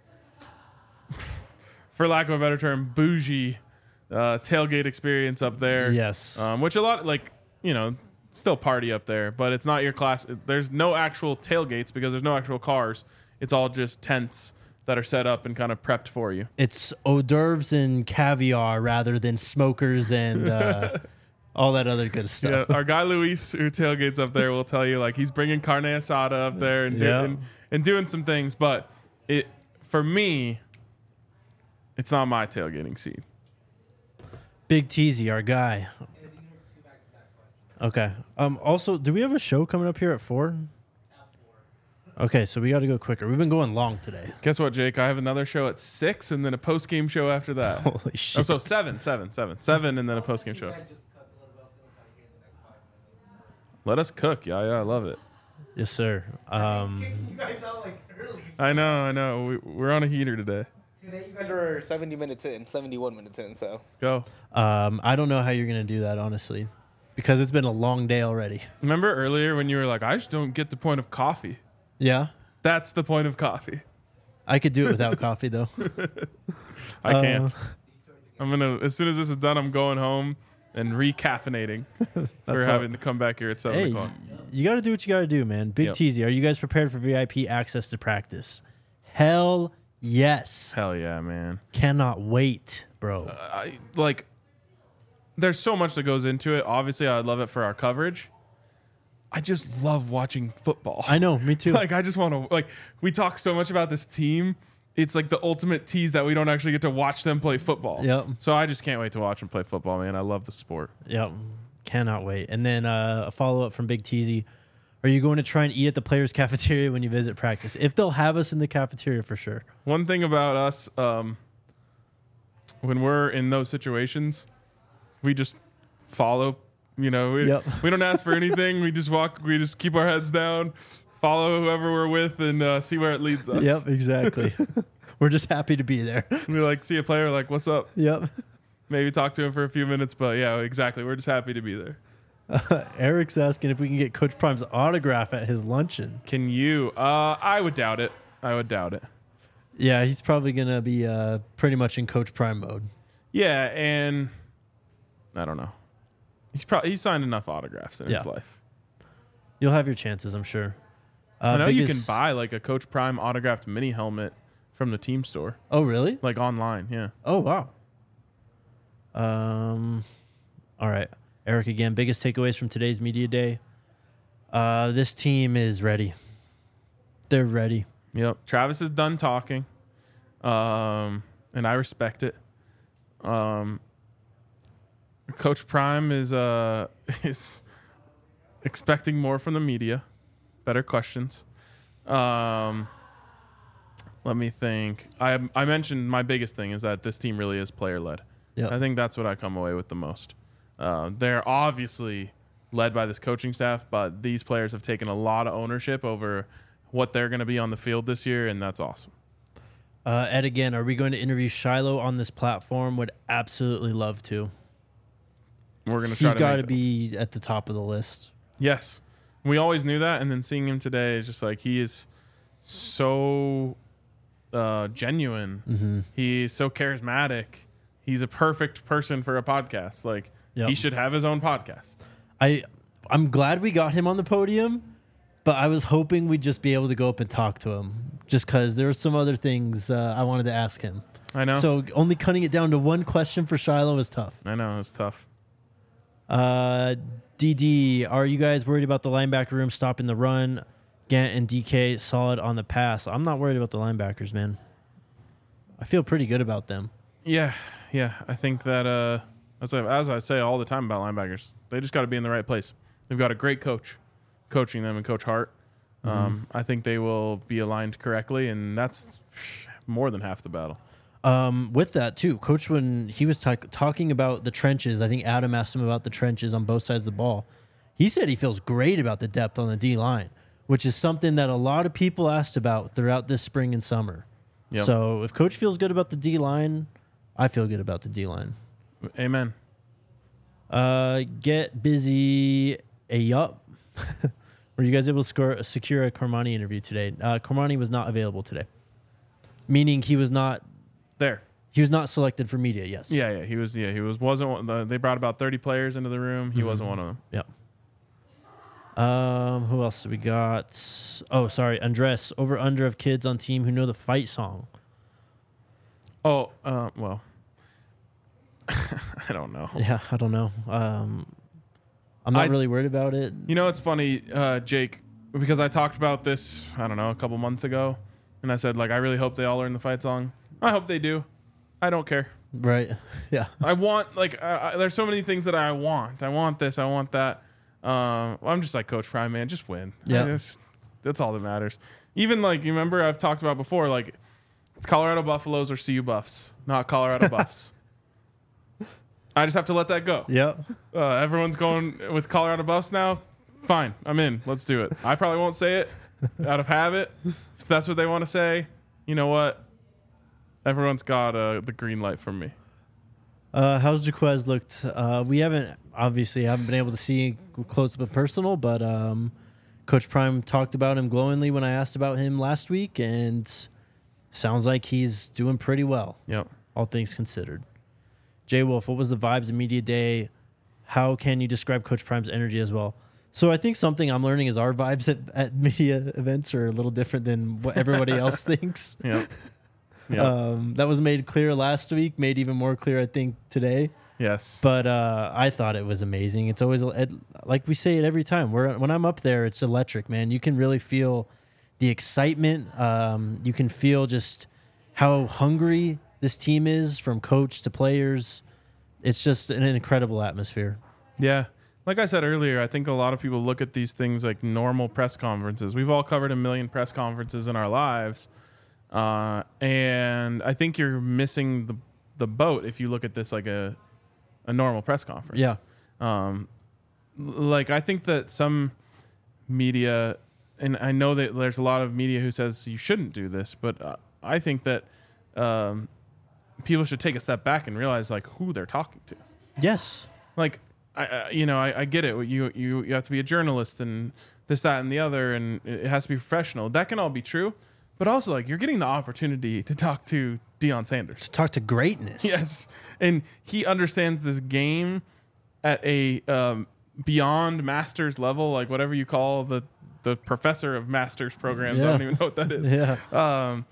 for lack of a better term, bougie uh, tailgate experience up there. Yes. Um, which a lot, like, you know, still party up there, but it's not your class. There's no actual tailgates because there's no actual cars. It's all just tents that are set up and kind of prepped for you. It's hors d'oeuvres and caviar rather than smokers and uh, all that other good stuff. Yeah, our guy Luis, who tailgates up there, will tell you like he's bringing carne asada up there and, do, Yeah. and and doing some things. But it for me, it's not my tailgating scene. Big Teasy, our guy. Okay. Um. Also, do we have a show coming up here at four? Okay, so we got to go quicker. We've been going long today. Guess what, Jake? I have another show at six, and then a post game show after that. Holy shit. Oh, so seven, seven, seven, seven, and then a post game show. Let us cook. Yeah, yeah, I love it. Yes, sir. Um. You guys sound like early. I know, I know. We, we're on a heater today. Today you guys are seventy minutes in, seventy-one minutes in, so. Let's go. Um. I don't know how you're gonna do that, honestly, because it's been a long day already. Remember earlier when you were like, I just don't get the point of coffee. Yeah. That's the point of coffee. I could do it without coffee though. I Uh, can't. I'm gonna as soon as this is done, I'm going home and recaffeinating for That's having all. to come back here at seven Hey, o'clock. you got to do what you got to do, man. Big Yep. Teasy, are you guys prepared for V I P access to practice? Hell yes. Hell yeah, man. Cannot wait, bro. I like. There's so much that goes into it. Obviously, I love it for our coverage. I just love watching football. I know, me too. Like I just want to like. We talk so much about this team. It's like the ultimate tease that we don't actually get to watch them play football. Yep. So I just can't wait to watch them play football, man. I love the sport. Yep. Cannot wait. And then uh, a follow up from Big Teasy. Are you going to try and eat at the players' cafeteria when you visit practice? If they'll have us in the cafeteria for sure. One thing about us, um, when we're in those situations, we just follow. You know, we, Yep. we don't ask for anything. We just walk. We just keep our heads down, follow whoever we're with, and uh, see where it leads us. Yep, exactly. We're just happy to be there. We like see a player, like, what's up? Yep. Maybe talk to him for a few minutes, but yeah, exactly. We're just happy to be there. Uh, Eric's asking if we can get Coach Prime's autograph at his luncheon. Can you? Uh, I would doubt it. I would doubt it. Yeah, he's probably going to be uh, pretty much in Coach Prime mode. Yeah, and I don't know. He's probably he's signed enough autographs in his Yeah. life. You'll have your chances, I'm sure. Uh, I know you can biggest- buy like a Coach Prime autographed mini helmet from the team store, Oh, really? like online. Yeah. Oh, wow. Um, all right. Eric again. Biggest takeaways from today's media day. Uh, this team is ready. They're ready. Yep. Travis is done talking, um, and I respect it. Um, Coach Prime is uh is expecting more from the media, better questions. Um, let me think. I I mentioned my biggest thing is that this team really is player led. Yep. I think that's what I come away with the most. Uh, they're obviously led by this coaching staff, but these players have taken a lot of ownership over what they're going to be on the field this year, and that's awesome. Uh, Ed, again, are we going to interview Shiloh on this platform? Would absolutely love to. We're going to try He's to got to make that. be at the top of the list. Yes. We always knew that, and then seeing him today is just like he is so uh, genuine. Mm-hmm. He's so charismatic. He's a perfect person for a podcast. Like Yep. he should have his own podcast. I, I'm glad we got him on the podium, but I was hoping we'd just be able to go up and talk to him just because there were some other things uh, I wanted to ask him. I know. So only cutting it down to one question for Shiloh is tough. I know it's tough. Uh, D D, are you guys worried about the linebacker room stopping the run? Gant and D K solid on the pass. I'm not worried about the linebackers, man. I feel pretty good about them. Yeah, yeah. I think that uh, as I, as I say all the time about linebackers, they just got to be in the right place. They've got a great coach coaching them, and Coach Hart. Um, I think they will be aligned correctly, and that's more than half the battle. Um, with that too, Coach, when he was talk- talking about the trenches, I think Adam asked him about the trenches on both sides of the ball. He said he feels great about the depth on the D line, which is something that a lot of people asked about throughout this spring and summer. Yep. So if Coach feels good about the D line, I feel good about the D line. Amen. Uh, get busy. A yup. Were you guys able to score, secure a Cormani interview today? Uh, Cormani was not available today, meaning he was not There. he was not selected for media. Yes. Yeah, yeah. He was. Yeah, he was. Wasn't. One, the, they brought about thirty players into the room. He Mhm. wasn't one of them. Yep. Um, who else do we got? Oh, sorry, Andres. Over under of kids on team who know the fight song. Oh, uh, well, I don't know. Yeah, I don't know. Um, I'm not I- really worried about it. You know, it's funny, uh, Jake, because I talked about this, I don't know, a couple months ago, and I said, like, I really hope they all learn the fight song. I hope they do. I don't care. Right? Yeah. I want, like, uh, I, there's so many things that I want. I want this. I want that. Um, I'm just like Coach Prime, man. Just win. Yeah. I just, that's all that matters. Even, like, you remember I've talked about before, like, it's Colorado Buffaloes or C U Buffs, not Colorado Buffs. I just have to let that go. Yep. Uh, everyone's going with Colorado Buffs now. Fine, I'm in. Let's do it. I probably won't say it out of habit. If that's what they want to say, you know what? Everyone's got uh, the green light from me. Uh, how's Jaquez looked? Uh, we haven't obviously haven't been able to see close up and personal, but um, Coach Prime talked about him glowingly when I asked about him last week, and sounds like he's doing pretty well. Yep. All things considered. Jay Wolf, what was the vibes of media day? How can you describe Coach Prime's energy as well? So I think something I'm learning is our vibes at, at media events are a little different than what everybody else thinks. Yep. Yep. Um, that was made clear last week, made even more clear, I think, today. Yes. But uh, I thought it was amazing. It's always, it, like we say it every time. We're, when I'm up there, it's electric, man. You can really feel the excitement. Um, you can feel just how hungry this team is, from coach to players. It's just an incredible atmosphere. Yeah. Like I said earlier, I think a lot of people look at these things like normal press conferences. We've all covered a million press conferences in our lives. Uh, and I think you're missing the the boat if you look at this like a a normal press conference. Yeah. Um, like I think that some media, and I know that there's a lot of media who says you shouldn't do this, but uh, I think that um, people should take a step back and realize like who they're talking to. Yes. Like, I, I you know, I, I get it. You, you, you have to be a journalist and this, that, and the other, and it has to be professional. That can all be true. But also, like, you're getting the opportunity to talk to Deion Sanders. To talk to greatness. Yes. And he understands this game at a um, beyond master's level, like whatever you call the, the professor of master's programs. Yeah. I don't even know what that is. Yeah. Um,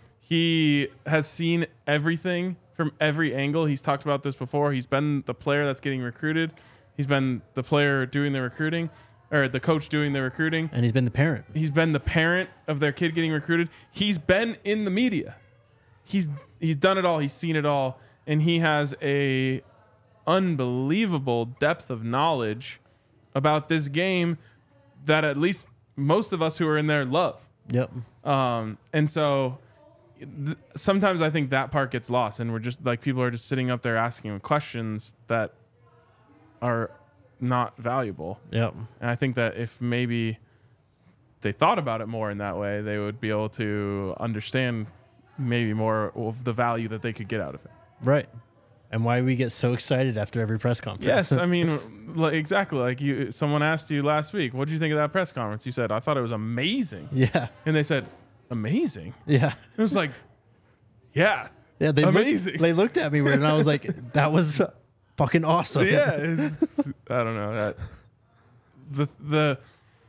he has seen everything from every angle. He's talked about this before. He's been the player that's getting recruited. He's been the player doing the recruiting, or the coach doing the recruiting. And he's been the parent. He's been the parent of their kid getting recruited. He's been in the media. He's he's done it all. He's seen it all, and he has a unbelievable depth of knowledge about this game that at least most of us who are in there love. Yep. Um, and so th- sometimes I think that part gets lost, and we're just like people are just sitting up there asking him questions that are not valuable. Yep. And I think that if maybe they thought about it more in that way, they would be able to understand maybe more of the value that they could get out of it. Right. And why we get so excited after every press conference. Yes, I mean, like, exactly. Like you, someone asked you last week, "What did you think of that press conference?" You said, "I thought it was amazing." Yeah. And they said, "Amazing." Yeah. It was like, yeah, Yeah. They amazing. Looked, they looked at me weird, and I was like, "That was fucking awesome." Yeah, it's, I don't know that the the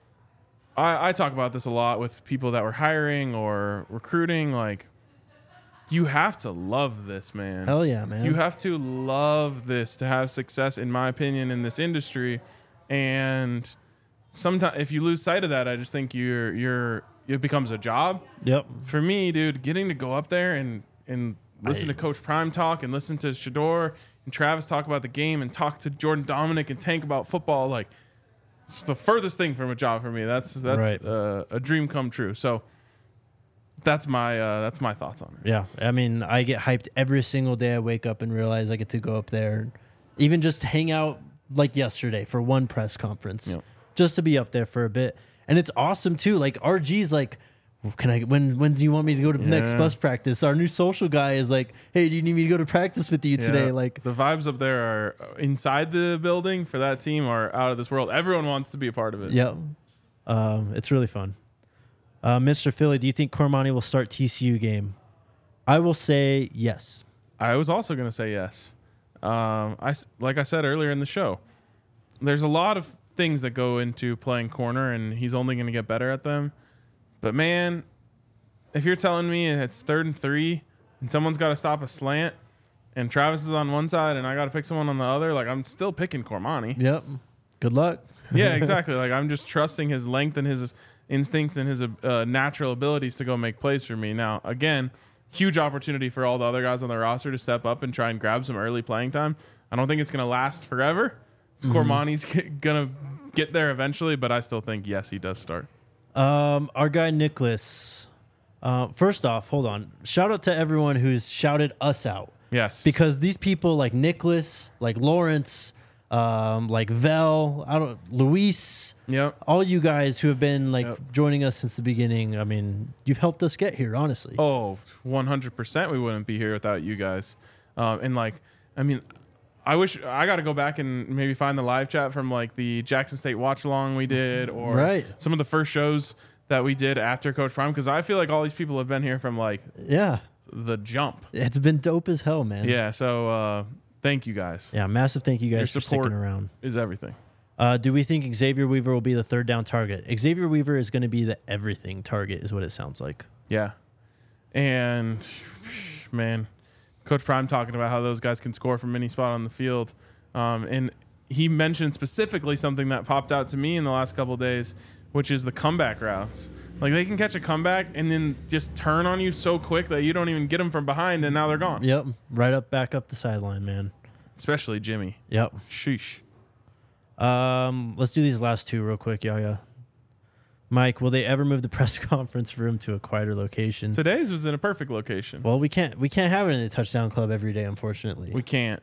I, I talk about this a lot with people that were hiring or recruiting. Like, you have to love this, man. Hell yeah, man. You have to love this to have success, in my opinion, in this industry. And sometimes, if you lose sight of that, I just think you're you're it becomes a job. Yep. For me, dude, getting to go up there and and listen to Coach Prime talk and listen to Shador and Travis talk about the game and talk to Jordan Dominic and Tank about football, like, it's the furthest thing from a job for me. That's that's Right. uh, a dream come true. So that's my uh, that's my thoughts on it. Yeah. I mean, I get hyped every single day I wake up and realize I get to go up there, even just hang out like yesterday for one press conference, Yep. just to be up there for a bit. And it's awesome too. Like R G's like, can I, when, when do you want me to go to next Yeah. bus practice? Our new social guy is like, hey, do you need me to go to practice with you today? Yeah. Like, the vibes up there are inside the building for that team are out of this world. Everyone wants to be a part of it. yeah, um, it's really fun. Uh, Mister Philly, do you think Cormani will start T C U game? I will say yes. I was also going to say yes. Um, I s- like I said earlier in the show, there's a lot of things that go into playing corner, and he's only going to get better at them. But man, if you're telling me it's third and three and someone's got to stop a slant and Travis is on one side and I got to pick someone on the other, like I'm still picking Cormani. Yep. Good luck. Yeah, exactly. Like I'm just trusting his length and his instincts and his uh, natural abilities to go make plays for me. Now, again, huge opportunity for all the other guys on the roster to step up and try and grab some early playing time. I don't think it's going to last forever. Mm-hmm. Cormani's going to get there eventually, but I still think, yes, he does start. Um, our guy Nicholas. Uh, first off, hold on. Shout out to everyone who's shouted us out. Yes. Because these people like Nicholas, like Lawrence, um, like Vel, I don't, Luis, yep. all you guys who have been like yep. joining us since the beginning. I mean, you've helped us get here, honestly. Oh, one hundred percent we wouldn't be here without you guys. Um, and like, I mean, I wish I got to go back and maybe find the live chat from like the Jackson State watch along we did, or right. some of the first shows that we did after Coach Prime, because I feel like all these people have been here from like yeah the jump. It's been dope as hell, man. Yeah, so uh, thank you guys. Yeah, massive thank you guys Your for support sticking around. Is everything. Uh, do we think Xavier Weaver will be the third down target? Xavier Weaver is going to be the everything target, is what it sounds like. Yeah, and man, Coach Prime talking about how those guys can score from any spot on the field, um, and he mentioned specifically something that popped out to me in the last couple of days, which is the comeback routes. Like they can catch a comeback and then just turn on you so quick that you don't even get them from behind, and now they're gone. Yep, right up, back up the sideline, man. Especially Jimmy. Yep. Sheesh. Um, let's do these last two real quick, Yaya. Mike, will they ever move the press conference room to a quieter location? Today's was in a perfect location. Well, we can't we can't have it in the touchdown club every day, unfortunately. We can't.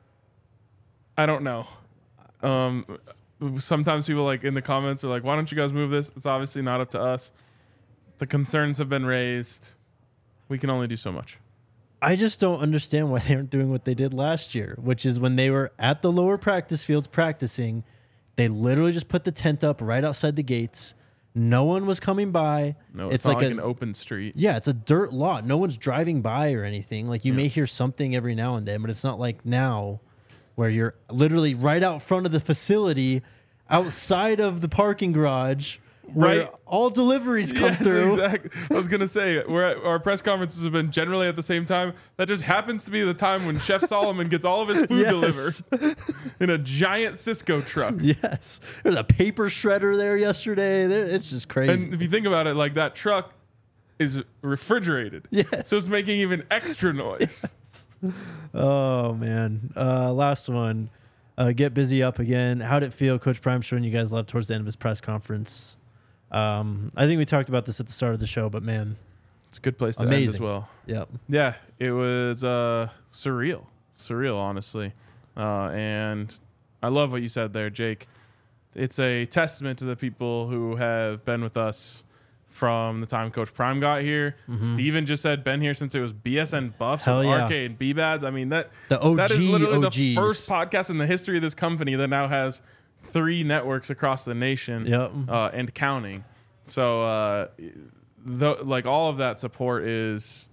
I don't know. Um, sometimes people like in the comments are like, "Why don't you guys move this?" It's obviously not up to us. The concerns have been raised. We can only do so much. I just don't understand why they aren't doing what they did last year, which is when they were at the lower practice fields practicing, they literally just put the tent up right outside the gates. No one was coming by. No, it's, it's not like, like a, an open street. Yeah, it's a dirt lot. No one's driving by or anything. Like you yeah. may hear something every now and then, but it's not like now where you're literally right out front of the facility, outside of the parking garage, where right. all deliveries come yes, through. Exactly. I was gonna say we're at, our press conferences have been generally at the same time. That just happens to be the time when Chef Solomon gets all of his food yes. delivered in a giant Cisco truck. Yes, there's a paper shredder there yesterday. It's just crazy. And if you think about it, like that truck is refrigerated. Yes, so it's making even extra noise. Yes. Oh man, uh, last one. Uh, get busy up again. How'd it feel, Coach Prime, showing you guys love towards the end of his press conference? Um, I think we talked about this at the start of the show, but man, it's a good place to amazing. end as well. Yep. Yeah, it was uh, surreal, surreal, honestly. Uh, and I love what you said there, Jake. It's a testament to the people who have been with us from the time Coach Prime got here. Mm-hmm. Steven just said been here since it was B S N Buffs Hell with yeah. R K and B-Bads. I mean, that, the O G that is literally O Gs. the first podcast in the history of this company that now has three networks across the nation yep. uh, and counting. So, uh, the, like, all of that support is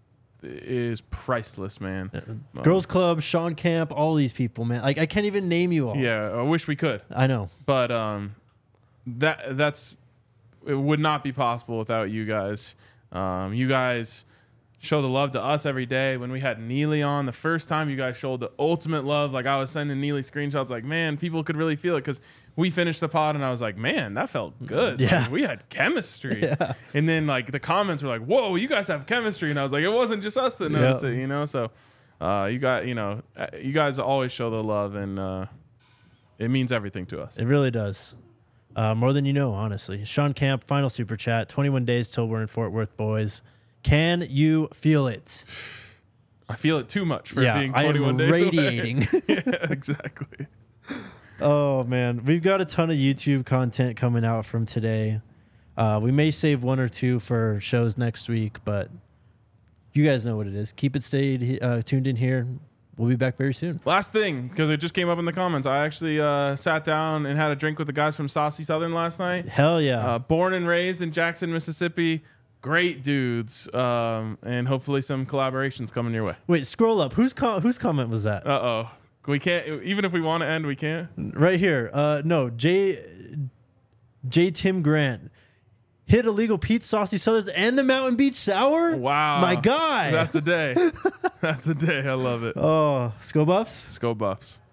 is priceless, man. Yeah. Um, Girls Club, Sean Camp, all these people, man. Like, I can't even name you all. Yeah, I wish we could. I know. But um, that that's it would not be possible without you guys. Um, you guys show the love to us every day. When we had Neely on the first time, you guys showed the ultimate love. Like I was sending Neely screenshots like, man, people could really feel it because we finished the pod and I was like, man, that felt good. Yeah. Like, we had chemistry. Yeah. And then like the comments were like, whoa, you guys have chemistry. And I was like, it wasn't just us that noticed yep. it, you know? So uh, you got, you know, you guys always show the love and uh, it means everything to us. It really does. Uh, more than you know, honestly. Sean Camp, final super chat. twenty-one days till we're in Fort Worth, boys. Can you feel it? I feel it too much for yeah, being twenty-one I am days radiating. yeah, exactly. Oh, man. We've got a ton of YouTube content coming out from today. Uh, we may save one or two for shows next week, but you guys know what it is. Keep it stayed uh, tuned in here. We'll be back very soon. Last thing, because it just came up in the comments. I actually uh, sat down and had a drink with the guys from Saucy Southern last night. Hell yeah. Uh, born and raised in Jackson, Mississippi. Great dudes. Um, and hopefully some collaborations coming your way. Wait, scroll up. Whose com- whose comment was that? Uh-oh. We can't, even if we want to end, we can't. Right here. Uh, no, J. J. Tim Grant hit illegal Pete Saucy Southers and the Mountain Beach Sour. Wow, my guy. That's a day. That's a day. I love it. Oh, Sco Buffs. Sco Buffs.